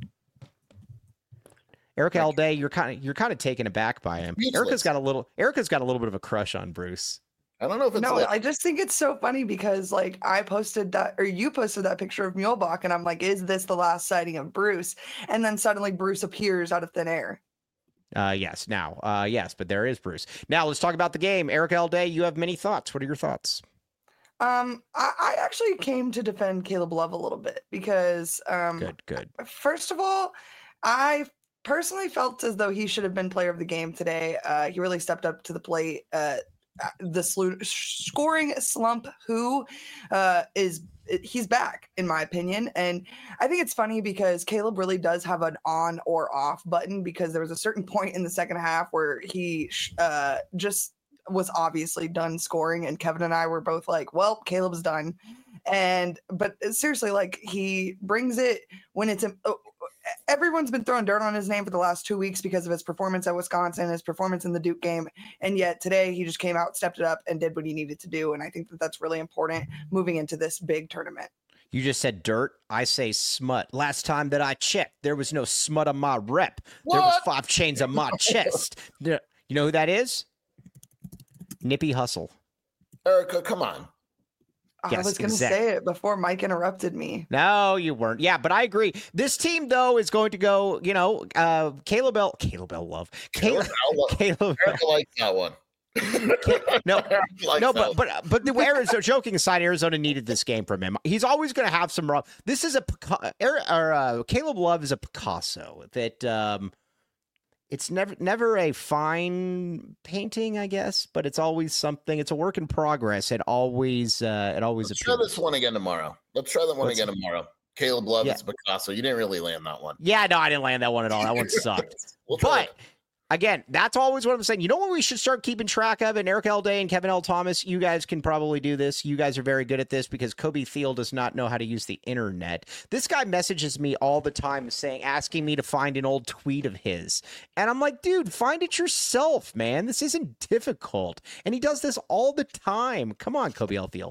Erica Alday, you're kind of taken aback by him. Erica's got a little bit of a crush on Bruce. I don't know if it's I just think it's so funny because like you posted that picture of Muehlbach, and I'm like, is this the last sighting of Bruce? And then suddenly Bruce appears out of thin air. Yes, but there is Bruce. Now let's talk about the game. Erica Alday, you have many thoughts. What are your thoughts? I actually came to defend Caleb Love a little bit because good. First of all, I personally felt as though he should have been player of the game today. He really stepped up to the plate. The scoring slump, he's back, in my opinion. And I think it's funny because Caleb really does have an on or off button, because there was a certain point in the second half where he just was obviously done scoring, and Kevin and I were both like, well, Caleb's done. But seriously, like, he brings it when it's everyone's been throwing dirt on his name for the last 2 weeks because of his performance at Wisconsin, his performance in the Duke game. And yet today he just came out, stepped it up, and did what he needed to do. And I think that that's really important moving into this big tournament. You just said dirt. I say smut. Last time that I checked, there was no smut on my rep. What? There was 5 chains on my chest. You know who that is? Nippy Hustle. Erica, come on. Yes, I was going to say it before Mike interrupted me. No, you weren't. Yeah, but I agree. This team, though, is going to go, Caleb L. Love. Caleb Erica likes that one. But the Arizona, joking aside, Arizona needed this game from him. He's always going to have some rough. This is Caleb Love is a Picasso that it's never a fine painting, I guess, but it's always something. It's a work in progress. Let's try this one again tomorrow. Caleb Love is Picasso. You didn't really land that one. Yeah, no, I didn't land that one at all. That one sucked. Again, that's always what I'm saying. You know what we should start keeping track of? And Eric Alday and Kevin L. Thomas, you guys can probably do this. You guys are very good at this because Kobe Thiel does not know how to use the internet. This guy messages me all the time asking me to find an old tweet of his. And I'm like, dude, find it yourself, man. This isn't difficult. And he does this all the time. Come on, Kobe L. Thiel.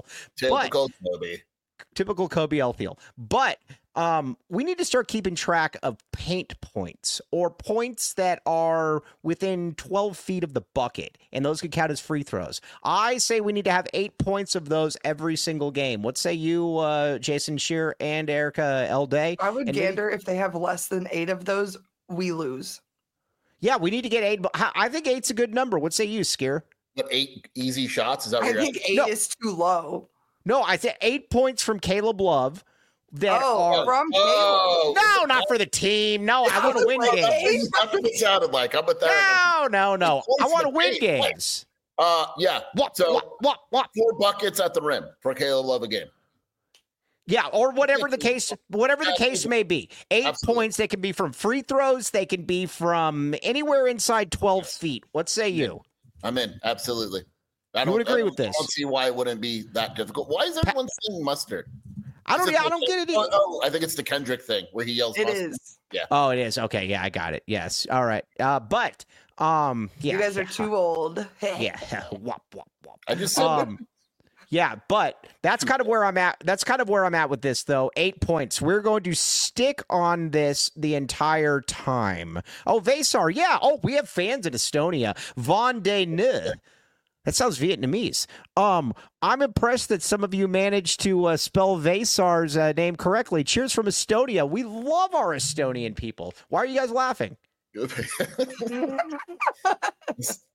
Typical Kobe L. Thiel. But we need to start keeping track of paint points, or points that are within 12 feet of the bucket, and those could count as free throws. I say we need to have 8 points of those every single game. What say you, Jason Shear and Erica Alday? I would gander if they have less than 8 of those, we lose. Yeah, we need to get 8. I think 8's a good number. What say you, Skier? What, 8 easy shots? Is that what I think 8 is too low. No, I said 8 points from Caleb Love. From Caleb. No, not for the team. No, I want to win games. That's what it sounded like. I'm with that. No. I want to win games. Yeah. What? 4 buckets at the rim for Caleb Love a game. Yeah, or whatever the case may be. 8 points. They can be from free throws. They can be from anywhere inside 12 feet. What say you? I'm in. Absolutely. I would agree with this. I don't see why it wouldn't be that difficult. Why is everyone saying mustard? I don't get it either. I think it's the Kendrick thing where he yells mustard. It is. Yeah. Oh, it is. Okay, yeah, I got it. Yes. All right. But you guys are too old. Yeah. Wop. I just said yeah, but that's kind of where I'm at. That's kind of where I'm at with this, though. 8 points. We're going to stick on this the entire time. Oh, Vasar. Yeah. Oh, we have fans in Estonia. Von de Ne. That sounds Vietnamese. I'm impressed that some of you managed to spell Vasar's name correctly. Cheers from Estonia. We love our Estonian people. Why are you guys laughing?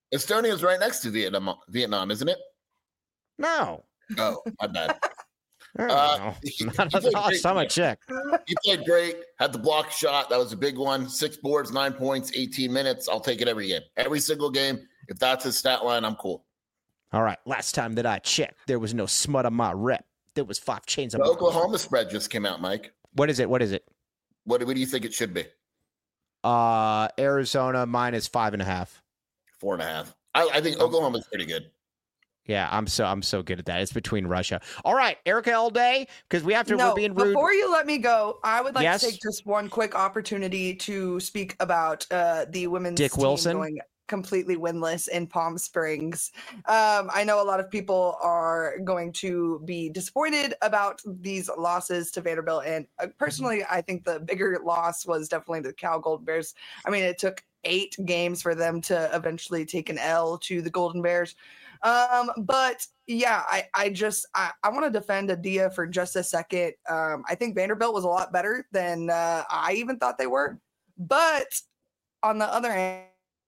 Estonia's right next to Vietnam, isn't it? No. Oh, my bad. Not the last time I checked. He played great, had the block shot. That was a big one. 6 boards, 9 points, 18 minutes. I'll take it every game. Every single game. If that's his stat line, I'm cool. All right. Last time that I checked, there was no smut on my rep. There was 5 chains on The my Oklahoma spread just came out, Mike. What is it? What do you think it should be? Arizona minus 5.5. 4.5. I think Oklahoma's pretty good. Yeah, I'm so good at that. It's between Russia. All right, Erica all day, because we have to. No, we're being rude. Before you let me go, I would like Yes? to take just one quick opportunity to speak about the women's Dick team Wilson? going completely winless in Palm Springs. I know a lot of people are going to be disappointed about these losses to Vanderbilt, and personally, I think the bigger loss was definitely the Cal Golden Bears. I mean, it took 8 games for them to eventually take an L to the Golden Bears. But yeah, I want to defend Adia for just a second. I think Vanderbilt was a lot better than I even thought they were. But on the other hand,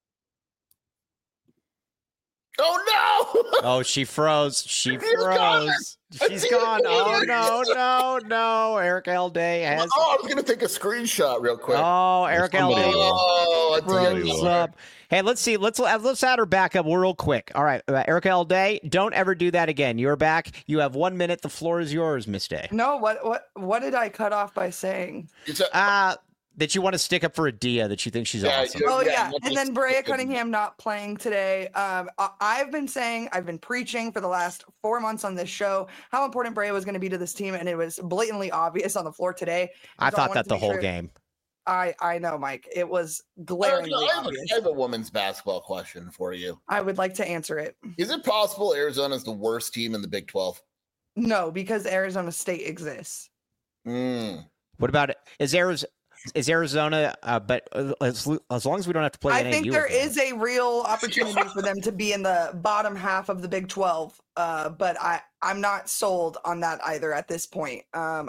Oh no! Oh, she froze. She froze. She's gone. Oh no. Eric Alday has. Oh, I was gonna take a screenshot real quick. Oh, Eric Alday froze up. Hey, let's see. Let's add her back up real quick. All right, Eric Alday, don't ever do that again. You're back. You have 1 minute. The floor is yours, Miss Day. no, what did I cut off by saying? That you want to stick up for Adia, that you think she's awesome. Oh, Yeah, yeah. And then Brea Cunningham not playing today. I've been preaching for the last 4 months on this show how important Brea was going to be to this team, and it was blatantly obvious on the floor today. I thought that the whole game. I know, Mike. It was glaringly obvious. I have a women's basketball question for you. I would like to answer it. Is it possible Arizona's the worst team in the Big 12? No, because Arizona State exists. What about it? Is Arizona, but as long as we don't have to play I think there is a real opportunity for them to be in the bottom half of the Big 12, but I'm not sold on that either at this point.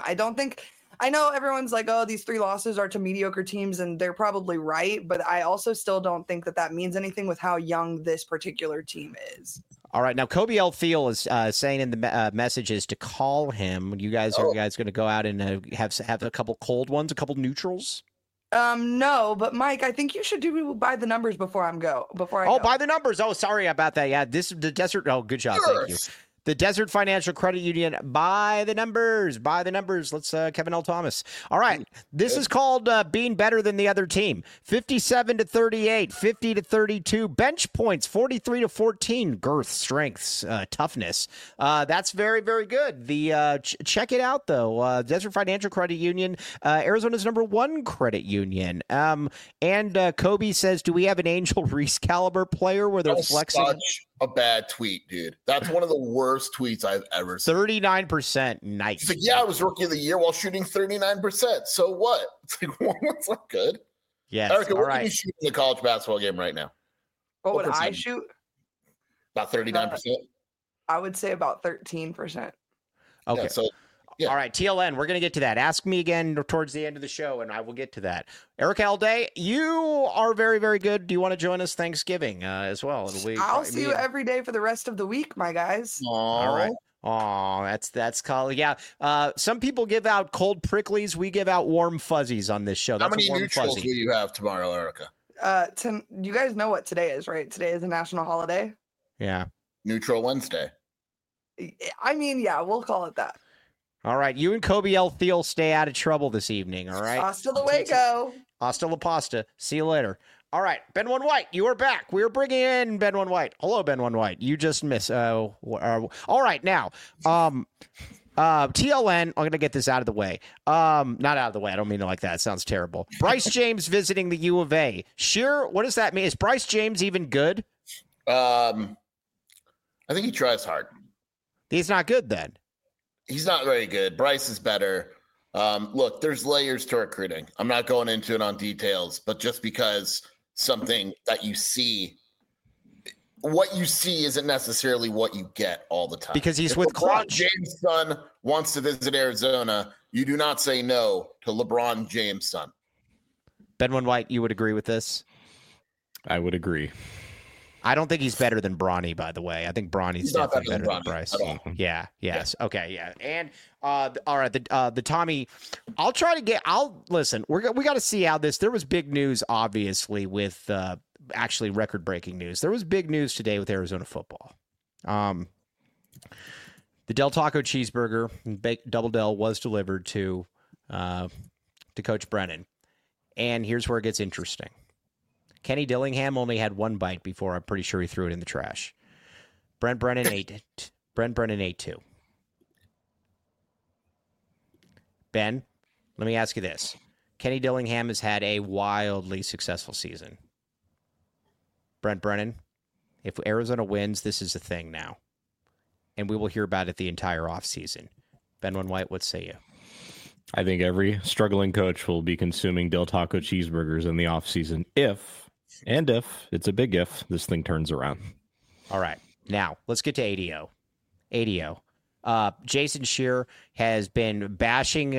I know everyone's like, oh, these 3 losses are to mediocre teams, and they're probably right, but I also still don't think that means anything with how young this particular team is. All right, now Kobe L. Thiel is saying in the messages to call him. You guys are going to go out and have a couple cold ones, a couple neutrals? No, but Mike, I think you should do by the numbers before I go. By the numbers. Oh, sorry about that. Yeah, this is the Desert. Oh, good job. Thank you. The Desert Financial Credit Union, by the numbers. Let's Kevin L. Thomas. All right. This is called being better than the other team. 57-38, 50-32, bench points, 43-14, girth, strengths, toughness. That's very, very good. The check it out, though. Desert Financial Credit Union, Arizona's #1 credit union. And Kobe says, do we have an Angel Reese caliber player where they're flexing? Such a bad tweet, dude. That's one of the worst tweets I've ever seen. 39%. Nice. It's like, yeah, I was rookie of the year while shooting 39%. So what? It's like, well, that's not good. Yes. Erica, what right. are you shooting in the college basketball game right now? What would I shoot? About 39%? I would say about 13%. Okay. Yeah, so yeah. All right, TLN, we're going to get to that. Ask me again towards the end of the show, and I will get to that. Eric Alday, you are very, very good. Do you want to join us Thanksgiving as well? I'll see you every day for the rest of the week, my guys. All right. Oh, that's called, yeah. Some people give out cold pricklies. We give out warm fuzzies on this show. That's how many warm neutrals fuzzy. will you have tomorrow, Erica? You guys know what today is, right? Today is a national holiday. Yeah. Neutral Wednesday. I mean, yeah, we'll call it that. All right, you and Kobe L. Thiel stay out of trouble this evening, all right? Hasta luego. Hasta la pasta. See you later. All right, Ben One White, you are back. We are bringing in Ben One White. Hello, Ben One White. You just missed. All right, now, TLN, I'm going to get this out of the way. Not out of the way. I don't mean it like that. It sounds terrible. Bryce James visiting the U of A. Sure, what does that mean? Is Bryce James even good? I think he tries hard. He's not good then. He's not very good. Bryce is better. Look, there's layers to recruiting. I'm not going into it on details, but just because something that you see, what you see isn't necessarily what you get all the time. Because he's if with LeBron Clutch. James' son wants to visit Arizona, you do not say no to LeBron James' son. Ben One White, you would agree with this? I would agree. I don't think he's better than Bronny, by the way. I think Bronny's definitely better than Bryce. Yeah. Yes. Yeah. Okay. Yeah. And all right. The Tommy. Listen. We got to see how this. There was big news, obviously, with actually record-breaking news. There was big news today with Arizona football. The Del Taco cheeseburger, Double Del, was delivered to Coach Brennan, and here's where it gets interesting. Kenny Dillingham only had one bite before I'm pretty sure he threw it in the trash. Brent Brennan ate 2. Ben, let me ask you this. Kenny Dillingham has had a wildly successful season. Brent Brennan, if Arizona wins, this is a thing now. And we will hear about it the entire offseason. Ben White, what say you? I think every struggling coach will be consuming Del Taco cheeseburgers in the offseason if it's a big if, this thing turns around. All right. Now, let's get to ADO. ADO. Jason Scheer has been bashing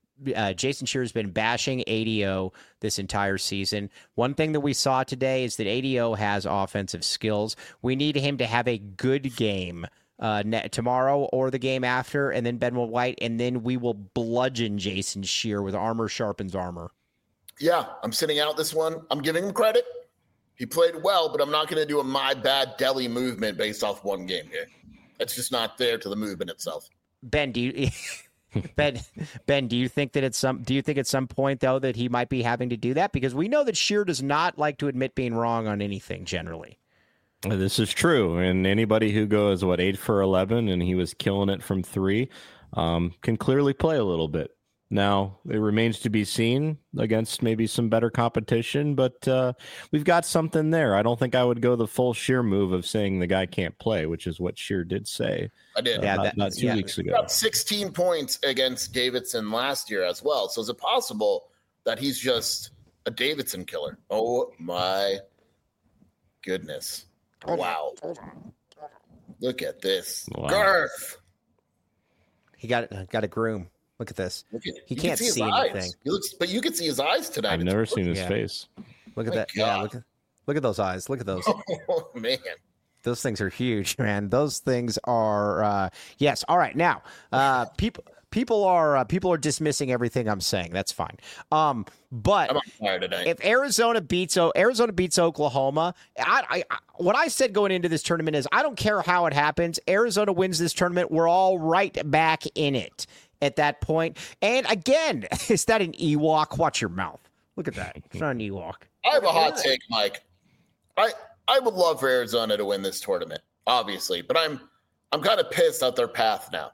ADO this entire season. One thing that we saw today is that ADO has offensive skills. We need him to have a good game tomorrow or the game after, and then Ben White, and then we will bludgeon Jason Scheer with armor sharpens armor. Yeah, I'm sitting out this one. I'm giving him credit. He played well, but I'm not going to do a my bad deli movement based off one game here. It's just not there to the movement itself. Ben, do you do you think that at some point though that he might be having to do that? Because we know that Scheer does not like to admit being wrong on anything generally. This is true, and anybody who goes 8 for 11 and he was killing it from 3 can clearly play a little bit. Now it remains to be seen against maybe some better competition, but we've got something there. I don't think I would go the full Scheer move of saying the guy can't play, which is what Scheer did say. I did. Not 2 weeks ago. He got 16 points against Davidson last year as well. So is it possible that he's just a Davidson killer? Oh my goodness. Wow. Look at this. Wow. Garth. He got a groom. Look at this. He can't see anything. But you can see his eyes tonight. I've never seen his face. Look at that. God. Yeah, look at those eyes. Look at those. Oh, man. Those things are huge, man. Those things are yes. All right. Now, people are dismissing everything I'm saying. That's fine. But I'm on fire today. If Arizona beats Oklahoma, what I said going into this tournament is I don't care how it happens. Arizona wins this tournament. We're all right back in it at that point. And again, is that an Ewok? Watch your mouth. Look at that. It's not an Ewok. I have a hot take, Mike. I would love for Arizona to win this tournament, obviously, but I'm kind of pissed at their path now.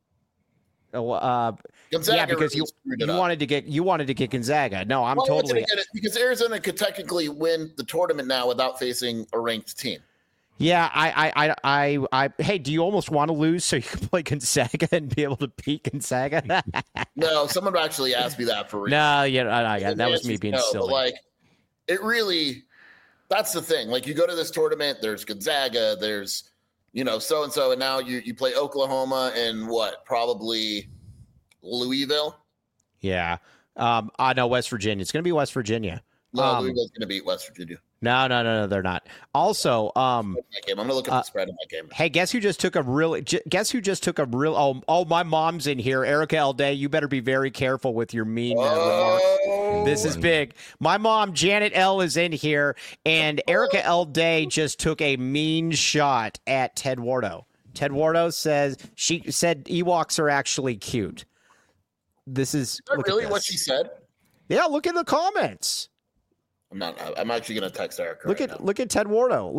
Gonzaga, yeah, because you wanted to get Gonzaga. No, I'm totally because Arizona could technically win the tournament now without facing a ranked team. Yeah, I hey, do you almost want to lose so you can play Gonzaga and be able to beat Gonzaga? No, someone actually asked me that for real. No, yeah, that was me being silly. But like, it really, that's the thing. Like, you go to this tournament, there's Gonzaga, there's, so and so, and now you play Oklahoma and probably Louisville. Yeah, I know West Virginia. It's going to be West Virginia. No, Louisville's going to beat West Virginia. No, they're not. Also, I'm going to look at the spread in that game. Hey, guess who just took a real? Oh, my mom's in here. Erica L. Day, you better be very careful with your mean remarks. This is big. My mom, Janet L., is in here, and Erica L. Day just took a mean shot at Ted Wardo. Ted Wardo she said Ewoks are actually cute. This is really what she said? Yeah, look in the comments. I'm actually going to text Erica. Look at Ted Wardo.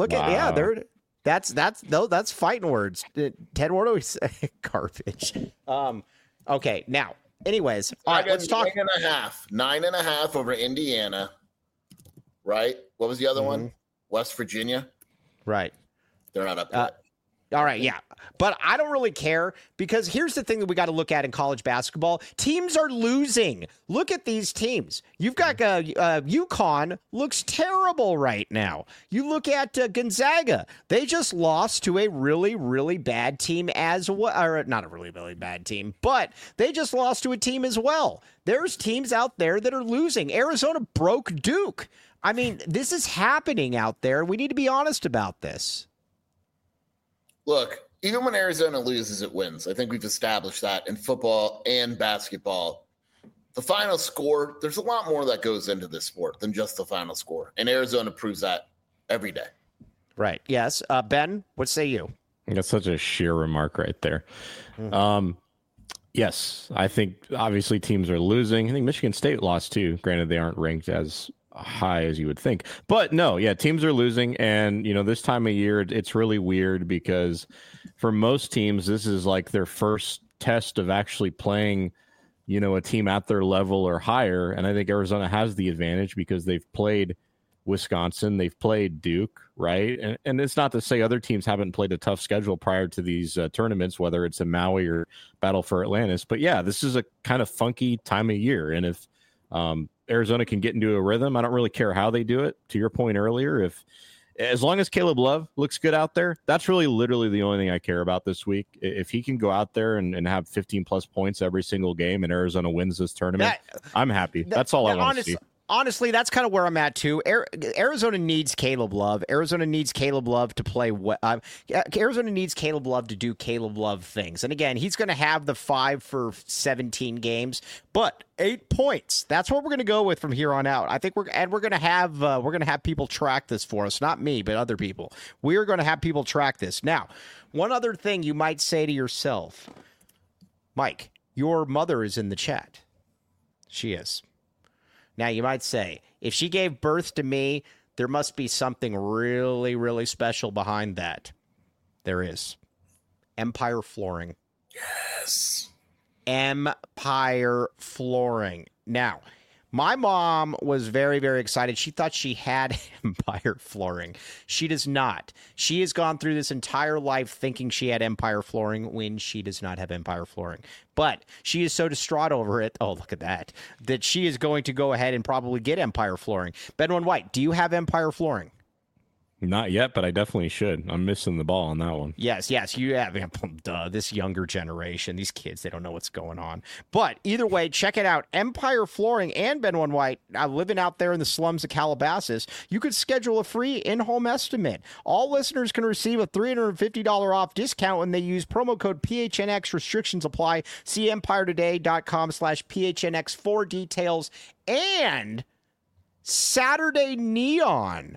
That's fighting words. Ted Wardo is garbage. Okay, now, anyways, all right, let's talk. 9.5 over Indiana. Right? What was the other one? West Virginia. Right. They're not up yet. All right, yeah. But I don't really care because here's the thing that we got to look at in college basketball. Teams are losing. Look at these teams. You've got UConn looks terrible right now. You look at Gonzaga. They just lost to a really, really bad team as well. Or not a really, really bad team, but they just lost to a team as well. There's teams out there that are losing. Arizona broke Duke. I mean, this is happening out there. We need to be honest about this. Look, even when Arizona loses, it wins. I think we've established that in football and basketball. The final score, there's a lot more that goes into this sport than just the final score. And Arizona proves that every day. Right. Yes. Ben, what say you? That's such a sheer remark right there. Mm-hmm. Yes, I think obviously teams are losing. I think Michigan State lost too. Granted, they aren't ranked as high as you would think, but no, yeah, teams are losing. And this time of year, it's really weird because for most teams, this is like their first test of actually playing, a team at their level or higher. And I think Arizona has the advantage because they've played Wisconsin, they've played Duke, right? And it's not to say other teams haven't played a tough schedule prior to these tournaments, whether it's in Maui or Battle for Atlantis. But yeah, this is a kind of funky time of year. And if Arizona can get into a rhythm, I don't really care how they do it. To your point earlier, as long as Caleb Love looks good out there, that's really literally the only thing I care about this week. If he can go out there and have 15 plus points every single game and Arizona wins this tournament, I'm happy. That's all I want to see. Honestly, that's kind of where I'm at, too. Arizona needs Caleb Love. Arizona needs Caleb Love to play. Arizona needs Caleb Love to do Caleb Love things. And again, he's going to have the 5 for 17 games, but 8 points. That's what we're going to go with from here on out. I think we're going to have people track this for us. Not me, but other people. We're going to have people track this. Now, one other thing you might say to yourself, Mike, your mother is in the chat. She is. Now, you might say, if she gave birth to me, there must be something really, really special behind that. There is. Empire Flooring. Yes. Empire Flooring. Now, my mom was very, very excited. She thought she had Empire Flooring. She does not. She has gone through this entire life thinking she had Empire Flooring when she does not have Empire Flooring. But she is so distraught over it, oh, look at that she is going to go ahead and probably get Empire Flooring. Benwin White, do you have Empire Flooring? Not yet, but I definitely should. I'm missing the ball on that one. Yes, you have. This younger generation, these kids, they don't know what's going on. But either way, check it out. Empire Flooring and Benwin White, living out there in the slums of Calabasas, you could schedule a free in-home estimate. All listeners can receive a $350 off discount when they use promo code PHNX. Restrictions apply. See EmpireToday.com/PHNX for details. And Saturday Neon.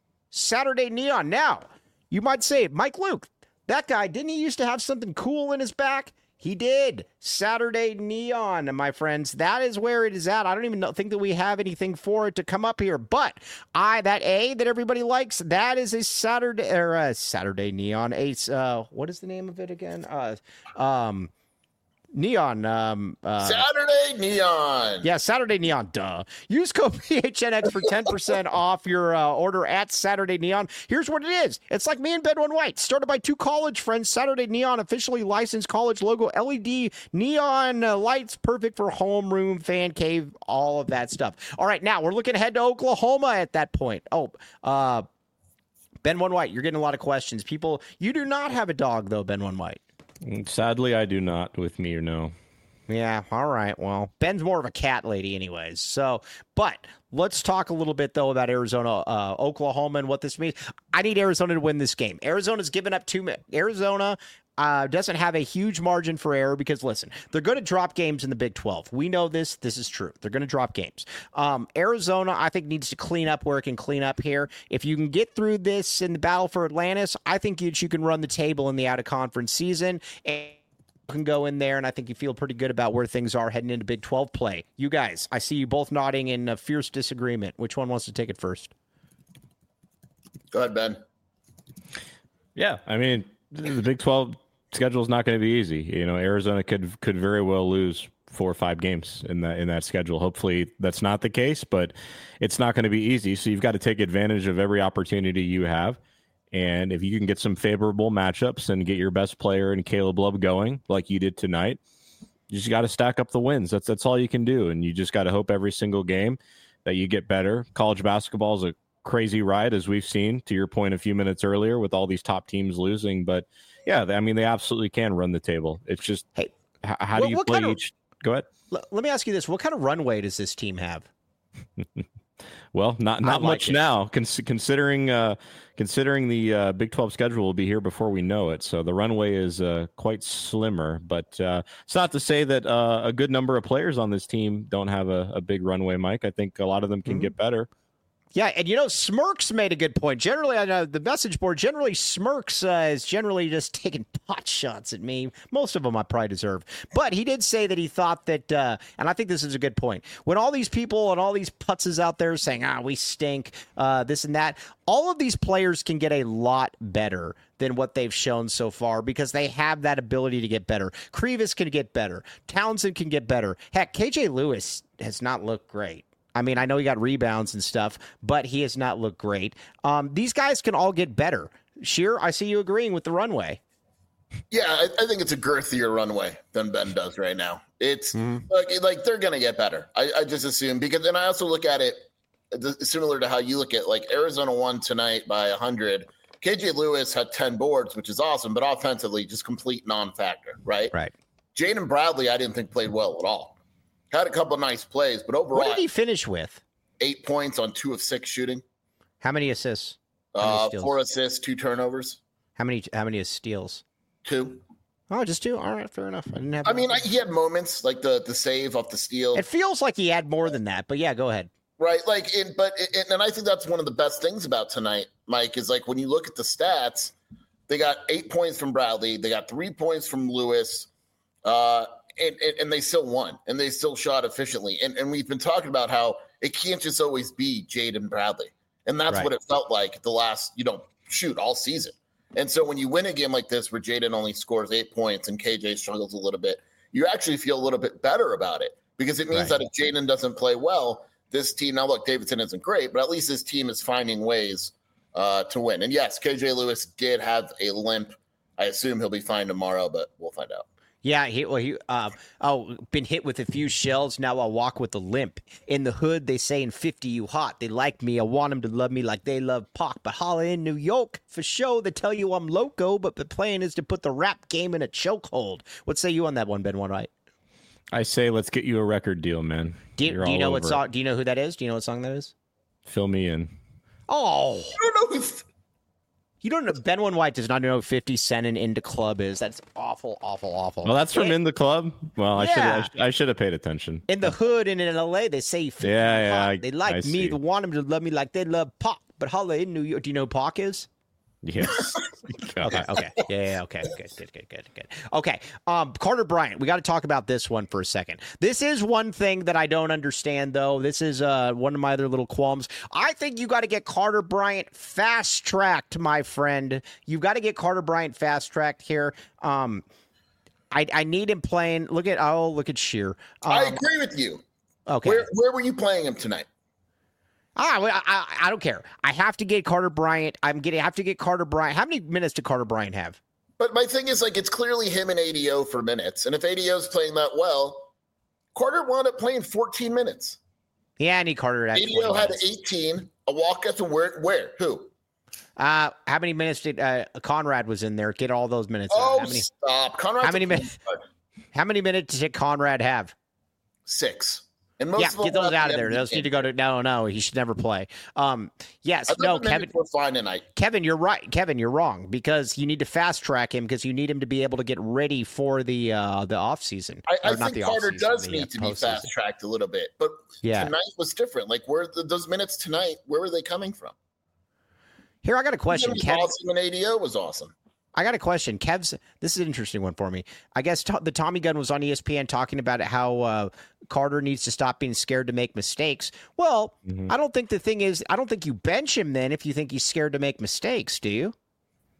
Now, you might say, Mike Luke, that guy, didn't he used to have something cool in his back? He did. Saturday Neon, my friends. That is where it is at. I don't even think that we have anything for it to come up here. But that A that everybody likes, that is a Saturday Neon. What is the name of it again? Neon. Saturday Neon. Yeah, Saturday Neon. Duh. Use code PHNX for 10% off your order at Saturday Neon. Here's what it is. It's like me and Benwin White. Started by two college friends. Saturday Neon, officially licensed college logo, LED neon lights, perfect for homeroom, fan cave, all of that stuff. All right, now we're looking ahead to Oklahoma at that point. Benwin White, you're getting a lot of questions. People, you do not have a dog, though, Benwin White. Sadly, I do not with me or no. Yeah, all right. Well, Ben's more of a cat lady anyways. So, but let's talk a little bit, though, about Arizona, Oklahoma, and what this means. I need Arizona to win this game. Arizona's given up Arizona doesn't have a huge margin for error because, listen, they're going to drop games in the Big 12. We know this. This is true. They're going to drop games. Arizona, I think, needs to clean up where it can clean up here. If you can get through this in the Battle for Atlantis, I think you can run the table in the out-of-conference season and can go in there, and I think you feel pretty good about where things are heading into Big 12 play. You guys, I see you both nodding in a fierce disagreement. Which one wants to take it first? Go ahead, Ben. Yeah, I mean, the Big 12 schedule is not going to be easy. Arizona could very well lose 4 or 5 games in that schedule. Hopefully that's not the case, but it's not going to be easy. So you've got to take advantage of every opportunity you have. And if you can get some favorable matchups and get your best player and Caleb Love going like you did tonight, you just got to stack up the wins. That's all you can do. And you just got to hope every single game that you get better. College basketball is a crazy ride, as we've seen, to your point a few minutes earlier, with all these top teams losing. But yeah, I mean, they absolutely can run the table. It's just, hey, how do you play each? Go ahead. Let me ask you this. What kind of runway does this team have? Well, not much now, considering the Big 12 schedule will be here before we know it. So the runway is quite slimmer, but it's not to say that a good number of players on this team don't have a big runway, Mike. I think a lot of them can get better. Yeah, and Smirks made a good point. Generally, on the message board, Smirks is generally just taking pot shots at me. Most of them I probably deserve. But he did say that he thought that, and I think this is a good point, when all these people and all these putzes out there saying, we stink, this and that, all of these players can get a lot better than what they've shown so far because they have that ability to get better. Krivas can get better. Townsend can get better. Heck, KJ Lewis has not looked great. I mean, I know he got rebounds and stuff, but he has not looked great. These guys can all get better. Sheer, I see you agreeing with the runway. Yeah, I think it's a girthier runway than Ben does right now. It's like they're going to get better. I just assume, because then I also look at it similar to how you look at, like, Arizona won tonight by 100. KJ Lewis had 10 boards, which is awesome, but offensively just complete non-factor, right? Right. Jaden Bradley, I didn't think played well at all. Had a couple nice plays, but overall, what did he finish with? 8 points on 2 of 6 shooting. How many assists? 4 assists, 2 turnovers. How many steals? 2. Oh, just 2. All right, fair enough. He had moments like the save off the steal. It feels like he had more than that, but yeah, go ahead. Right, and I think that's one of the best things about tonight, Mike, is like when you look at the stats, they got 8 points from Bradley, they got 3 points from Lewis, and they still won, and they still shot efficiently. And we've been talking about how it can't just always be Jaden Bradley. And that's what it felt like the last, all season. And so when you win a game like this where Jaden only scores 8 points and KJ struggles a little bit, you actually feel a little bit better about it, because it means that if Jaden doesn't play well, this team, now look, Davidson isn't great, but at least this team is finding ways to win. And yes, KJ Lewis did have a limp. I assume he'll be fine tomorrow, but we'll find out. Yeah, been hit with a few shells. Now I walk with a limp. In the hood, they saying 50 you hot. They like me. I want them to love me like they love Pac. But holla in New York for show. They tell you I'm loco, but the plan is to put the rap game in a chokehold. What say you on that one, Ben One-Right? I say let's get you a record deal, man. Do you know what song? Do you know who that is? Do you know what song that is? Fill me in. Oh, I don't know. You don't know. Ben One-White does not know who 50 Cent and In the Club is. That's awful, awful, awful. Well, that's from In the Club. Well, I should have paid attention. In the hood and in LA, they say 50 hot. They like me. They want them to love me like they love Pac. But holla in New York. Do you know who Pac is? Yes. Okay. Yeah. Okay. Good. Okay. Carter Bryant. We got to talk about this one for a second. This is one thing that I don't understand, though. This is one of my other little qualms. I think you got to get Carter Bryant fast tracked, my friend. You've got to get Carter Bryant fast tracked here. I need him playing. Look at Sheer. I agree with you. Okay. Where were you playing him tonight? I don't care. I have to get Carter Bryant. Have to get Carter Bryant. How many minutes did Carter Bryant have? But my thing is, like, it's clearly him and ADO for minutes. And if ADO's playing that well, Carter wound up playing 14 minutes. Yeah, I need Carter. ADO had 18. A walk at the where? Who? How many minutes did Conrad was in there? Get all those minutes. Stop. Conrad. How many minutes did Conrad have? 6. And most get those out of there. Those need to go to no. He should never play. Yes, no, Kevin. We're fine tonight. Kevin, you're right. Kevin, you're wrong, because you need to fast track him, because you need him to be able to get ready for the off season. I think Carter does need to be fast tracked a little bit, but tonight was different. Like, those minutes tonight? Where were they coming from? Here, I got a question. Kevin, awesome, and ADO was awesome. I got a question. This is an interesting one for me. I guess the Tommy Gunn was on ESPN talking about how Carter needs to stop being scared to make mistakes. Well, I don't think the thing is, I don't think you bench him then if you think he's scared to make mistakes, do you?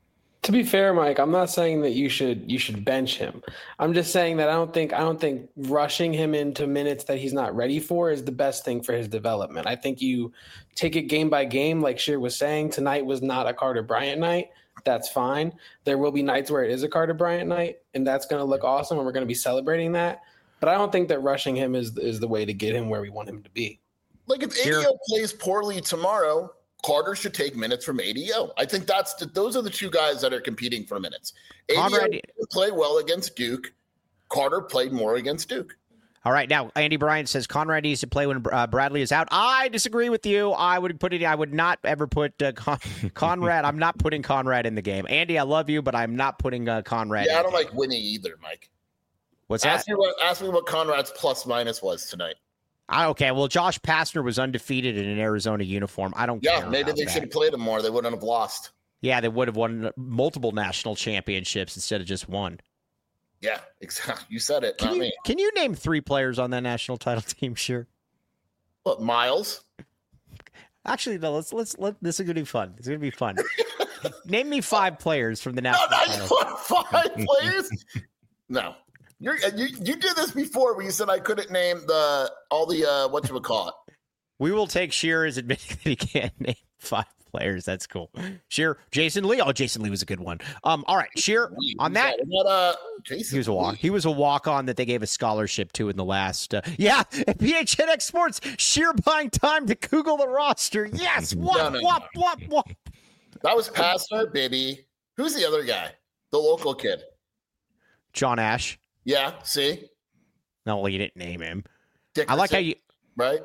To be fair, Mike, I'm not saying that you should bench him. I'm just saying that I don't think rushing him into minutes that he's not ready for is the best thing for his development. I think you take it game by game, like Sheer was saying. Tonight was not a Carter Bryant night. That's fine. There will be nights where it is a Carter Bryant night, and that's going to look awesome, and we're going to be celebrating that. But I don't think that rushing him is the way to get him where we want him to be. Like if ADO plays poorly tomorrow, Carter should take minutes from ADO. I think those are the two guys that are competing for minutes. ADO played well against Duke. Carter played more against Duke. All right, now Andy Bryant says Conrad needs to play when Bradley is out. I disagree with you. I would not ever put Conrad. I'm not putting Conrad in the game. Andy, I love you, but I'm not putting Conrad. Yeah, I don't like winning either, Mike. What's that? Ask me what Conrad's plus minus was tonight. Okay, well, Josh Pastner was undefeated in an Arizona uniform. I don't care. Yeah, maybe they should have played him more. They wouldn't have lost. Yeah, they would have won multiple national championships instead of just one. Yeah, exactly. You said it, not me. Can you name 3 players on that national title team? Sure. What, Miles? Actually, no. Let's. This is gonna be fun. It's gonna be fun. Name me 5 players from the national title. 5 players? No. You did this before when you said I couldn't name all the whatchamacallit. We will take Sheer as admitting that he can't name 5 players. That's cool. Sheer, Jason Lee. Oh, Jason Lee was a good one. All right, Sheer, on that. He was a walk-on that they gave a scholarship to in the last. At PHNX Sports, Sheer buying time to Google the roster. Yes. What? That was Pastner, baby. Who's the other guy? The local kid. John Ash. Yeah, see? No, well, you didn't name him. Dickerson, I like how you... Right?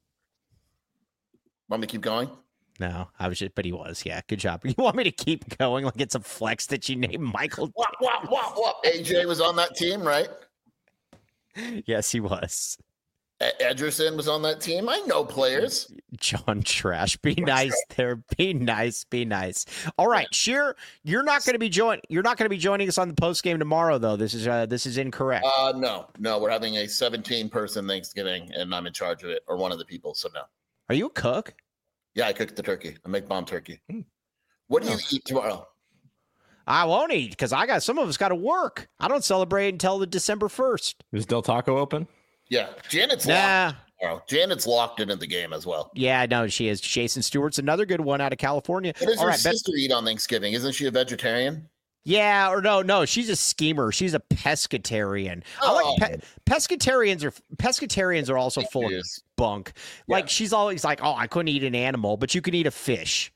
Want me to keep going? No, but he was. Yeah, good job. You want me to keep going like it's a flex that you named Michael? What? AJ was on that team, right? Yes, he was. Ederson was on that team. I know players. John Trash. Be nice there. Be nice. All right, Sheer, you're not going to be joining us on the post game tomorrow, though. This is incorrect. No, we're having a 17-person Thanksgiving, and I'm in charge of it, or one of the people. So no. Are you a cook? Yeah, I cook the turkey. I make bomb turkey. What do you eat tomorrow? I won't eat because some of us got to work. I don't celebrate until the December 1st. Is Del Taco open? Yeah, Janet's locked. Janet's locked into the game as well. Yeah, no, she is. Jason Stewart's another good one out of California. What does her sister eat on Thanksgiving? Isn't she a vegetarian? Yeah, or no, she's a schemer. She's a pescatarian. I like pescatarians are also full of bunk. Yeah. Like she's always like, "Oh, I couldn't eat an animal, but you can eat a fish."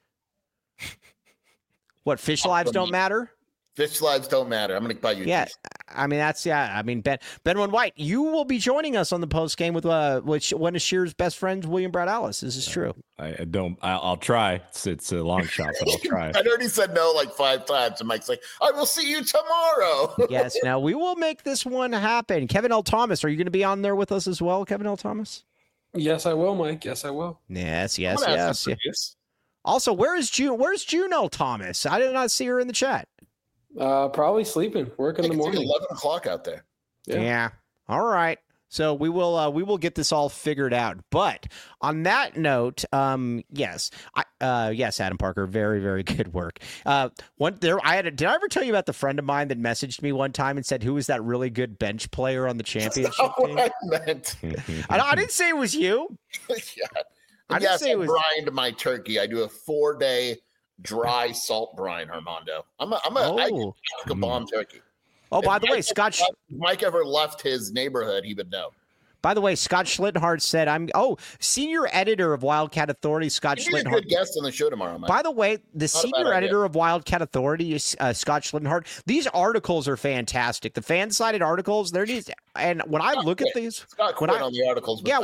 What, fish lives don't matter? Fish lives don't matter. I'm going to buy you. Yeah, I mean, Ben White, you will be joining us on the post game with one of Shear's best friends, William Brad Ellis. This is true. I'll try. It's a long shot, but I'll try. I already said no like 5 times, and Mike's like, "I will see you tomorrow." Yes. Now we will make this one happen. Kevin L. Thomas, are you going to be on there with us as well, Kevin L. Thomas? Yes, I will, Mike. Yes, I will. Yes. Also, where's June L. Thomas? I did not see her in the chat. Probably sleeping. Work in the morning. 11 o'clock out there. Yeah. All right. So we will get this all figured out. But on that note, yes, Adam Parker, very, very good work. Did I ever tell you about the friend of mine that messaged me one time and said, "Who was that really good bench player on the championship team?" What I meant. I didn't say it was you. Yeah. I brined my turkey. I do a 4-day dry salt brine, Armando. I cook a bomb turkey. Oh, by the way, Scott, if Mike ever left his neighborhood, he would know. By the way, Scott Schlittenhardt said, senior editor of Wildcat Authority, Scott Schlittenhardt. You're a good guest on the show tomorrow, Mike. By the way, the senior editor of Wildcat Authority is Scott Schlittenhardt. These articles are fantastic. The fan-sided articles, and when I look at these, Scott quit on the articles. Yeah,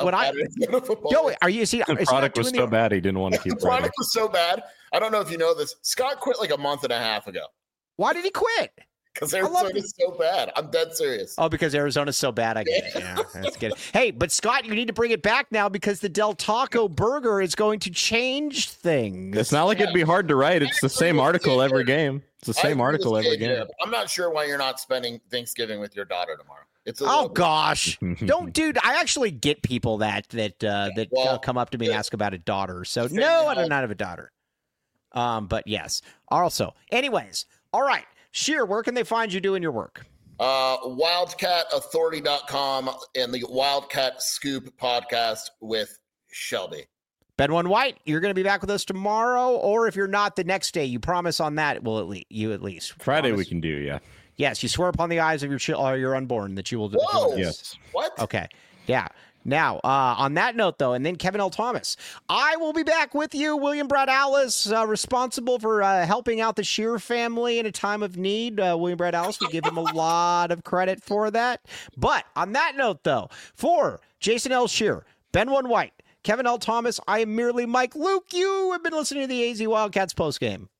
the product was so bad he didn't want to keep. The product was so bad. I don't know if you know this. Scott quit like a month and a half ago. Why did he quit? Because Arizona's so bad. I'm dead serious. Oh, because Arizona's so bad. I get it. Yeah, that's good. Hey, but Scott, you need to bring it back now because the Del Taco burger is going to change things. It's not like it'd be hard to write. It's the same article every game. It's the same article every game. I'm not sure why you're not spending Thanksgiving with your daughter tomorrow. Oh gosh, dude. I actually get people that come up to me and ask about a daughter. So no, I do not have a daughter. But yes. Also, anyways, All right. Sheer, where can they find you doing your work? WildcatAuthority.com and the Wildcat Scoop podcast with Shelby. Ben One White, you're going to be back with us tomorrow, or if you're not, the next day. You promise on that, you at least. Friday promise. we can do, yeah. Yes, you swear upon the eyes of your unborn that you will do. Whoa! Yes. What? Okay. Yeah. Now, on that note, though, and then Kevin L. Thomas, I will be back with you. William Brad Alice, responsible for helping out the Shear family in a time of need. William Brad Alice, we give him a lot of credit for that. But on that note, though, for Jason L. Shear, Ben One White, Kevin L. Thomas, I am merely Mike Luke. You have been listening to the AZ Wildcats postgame.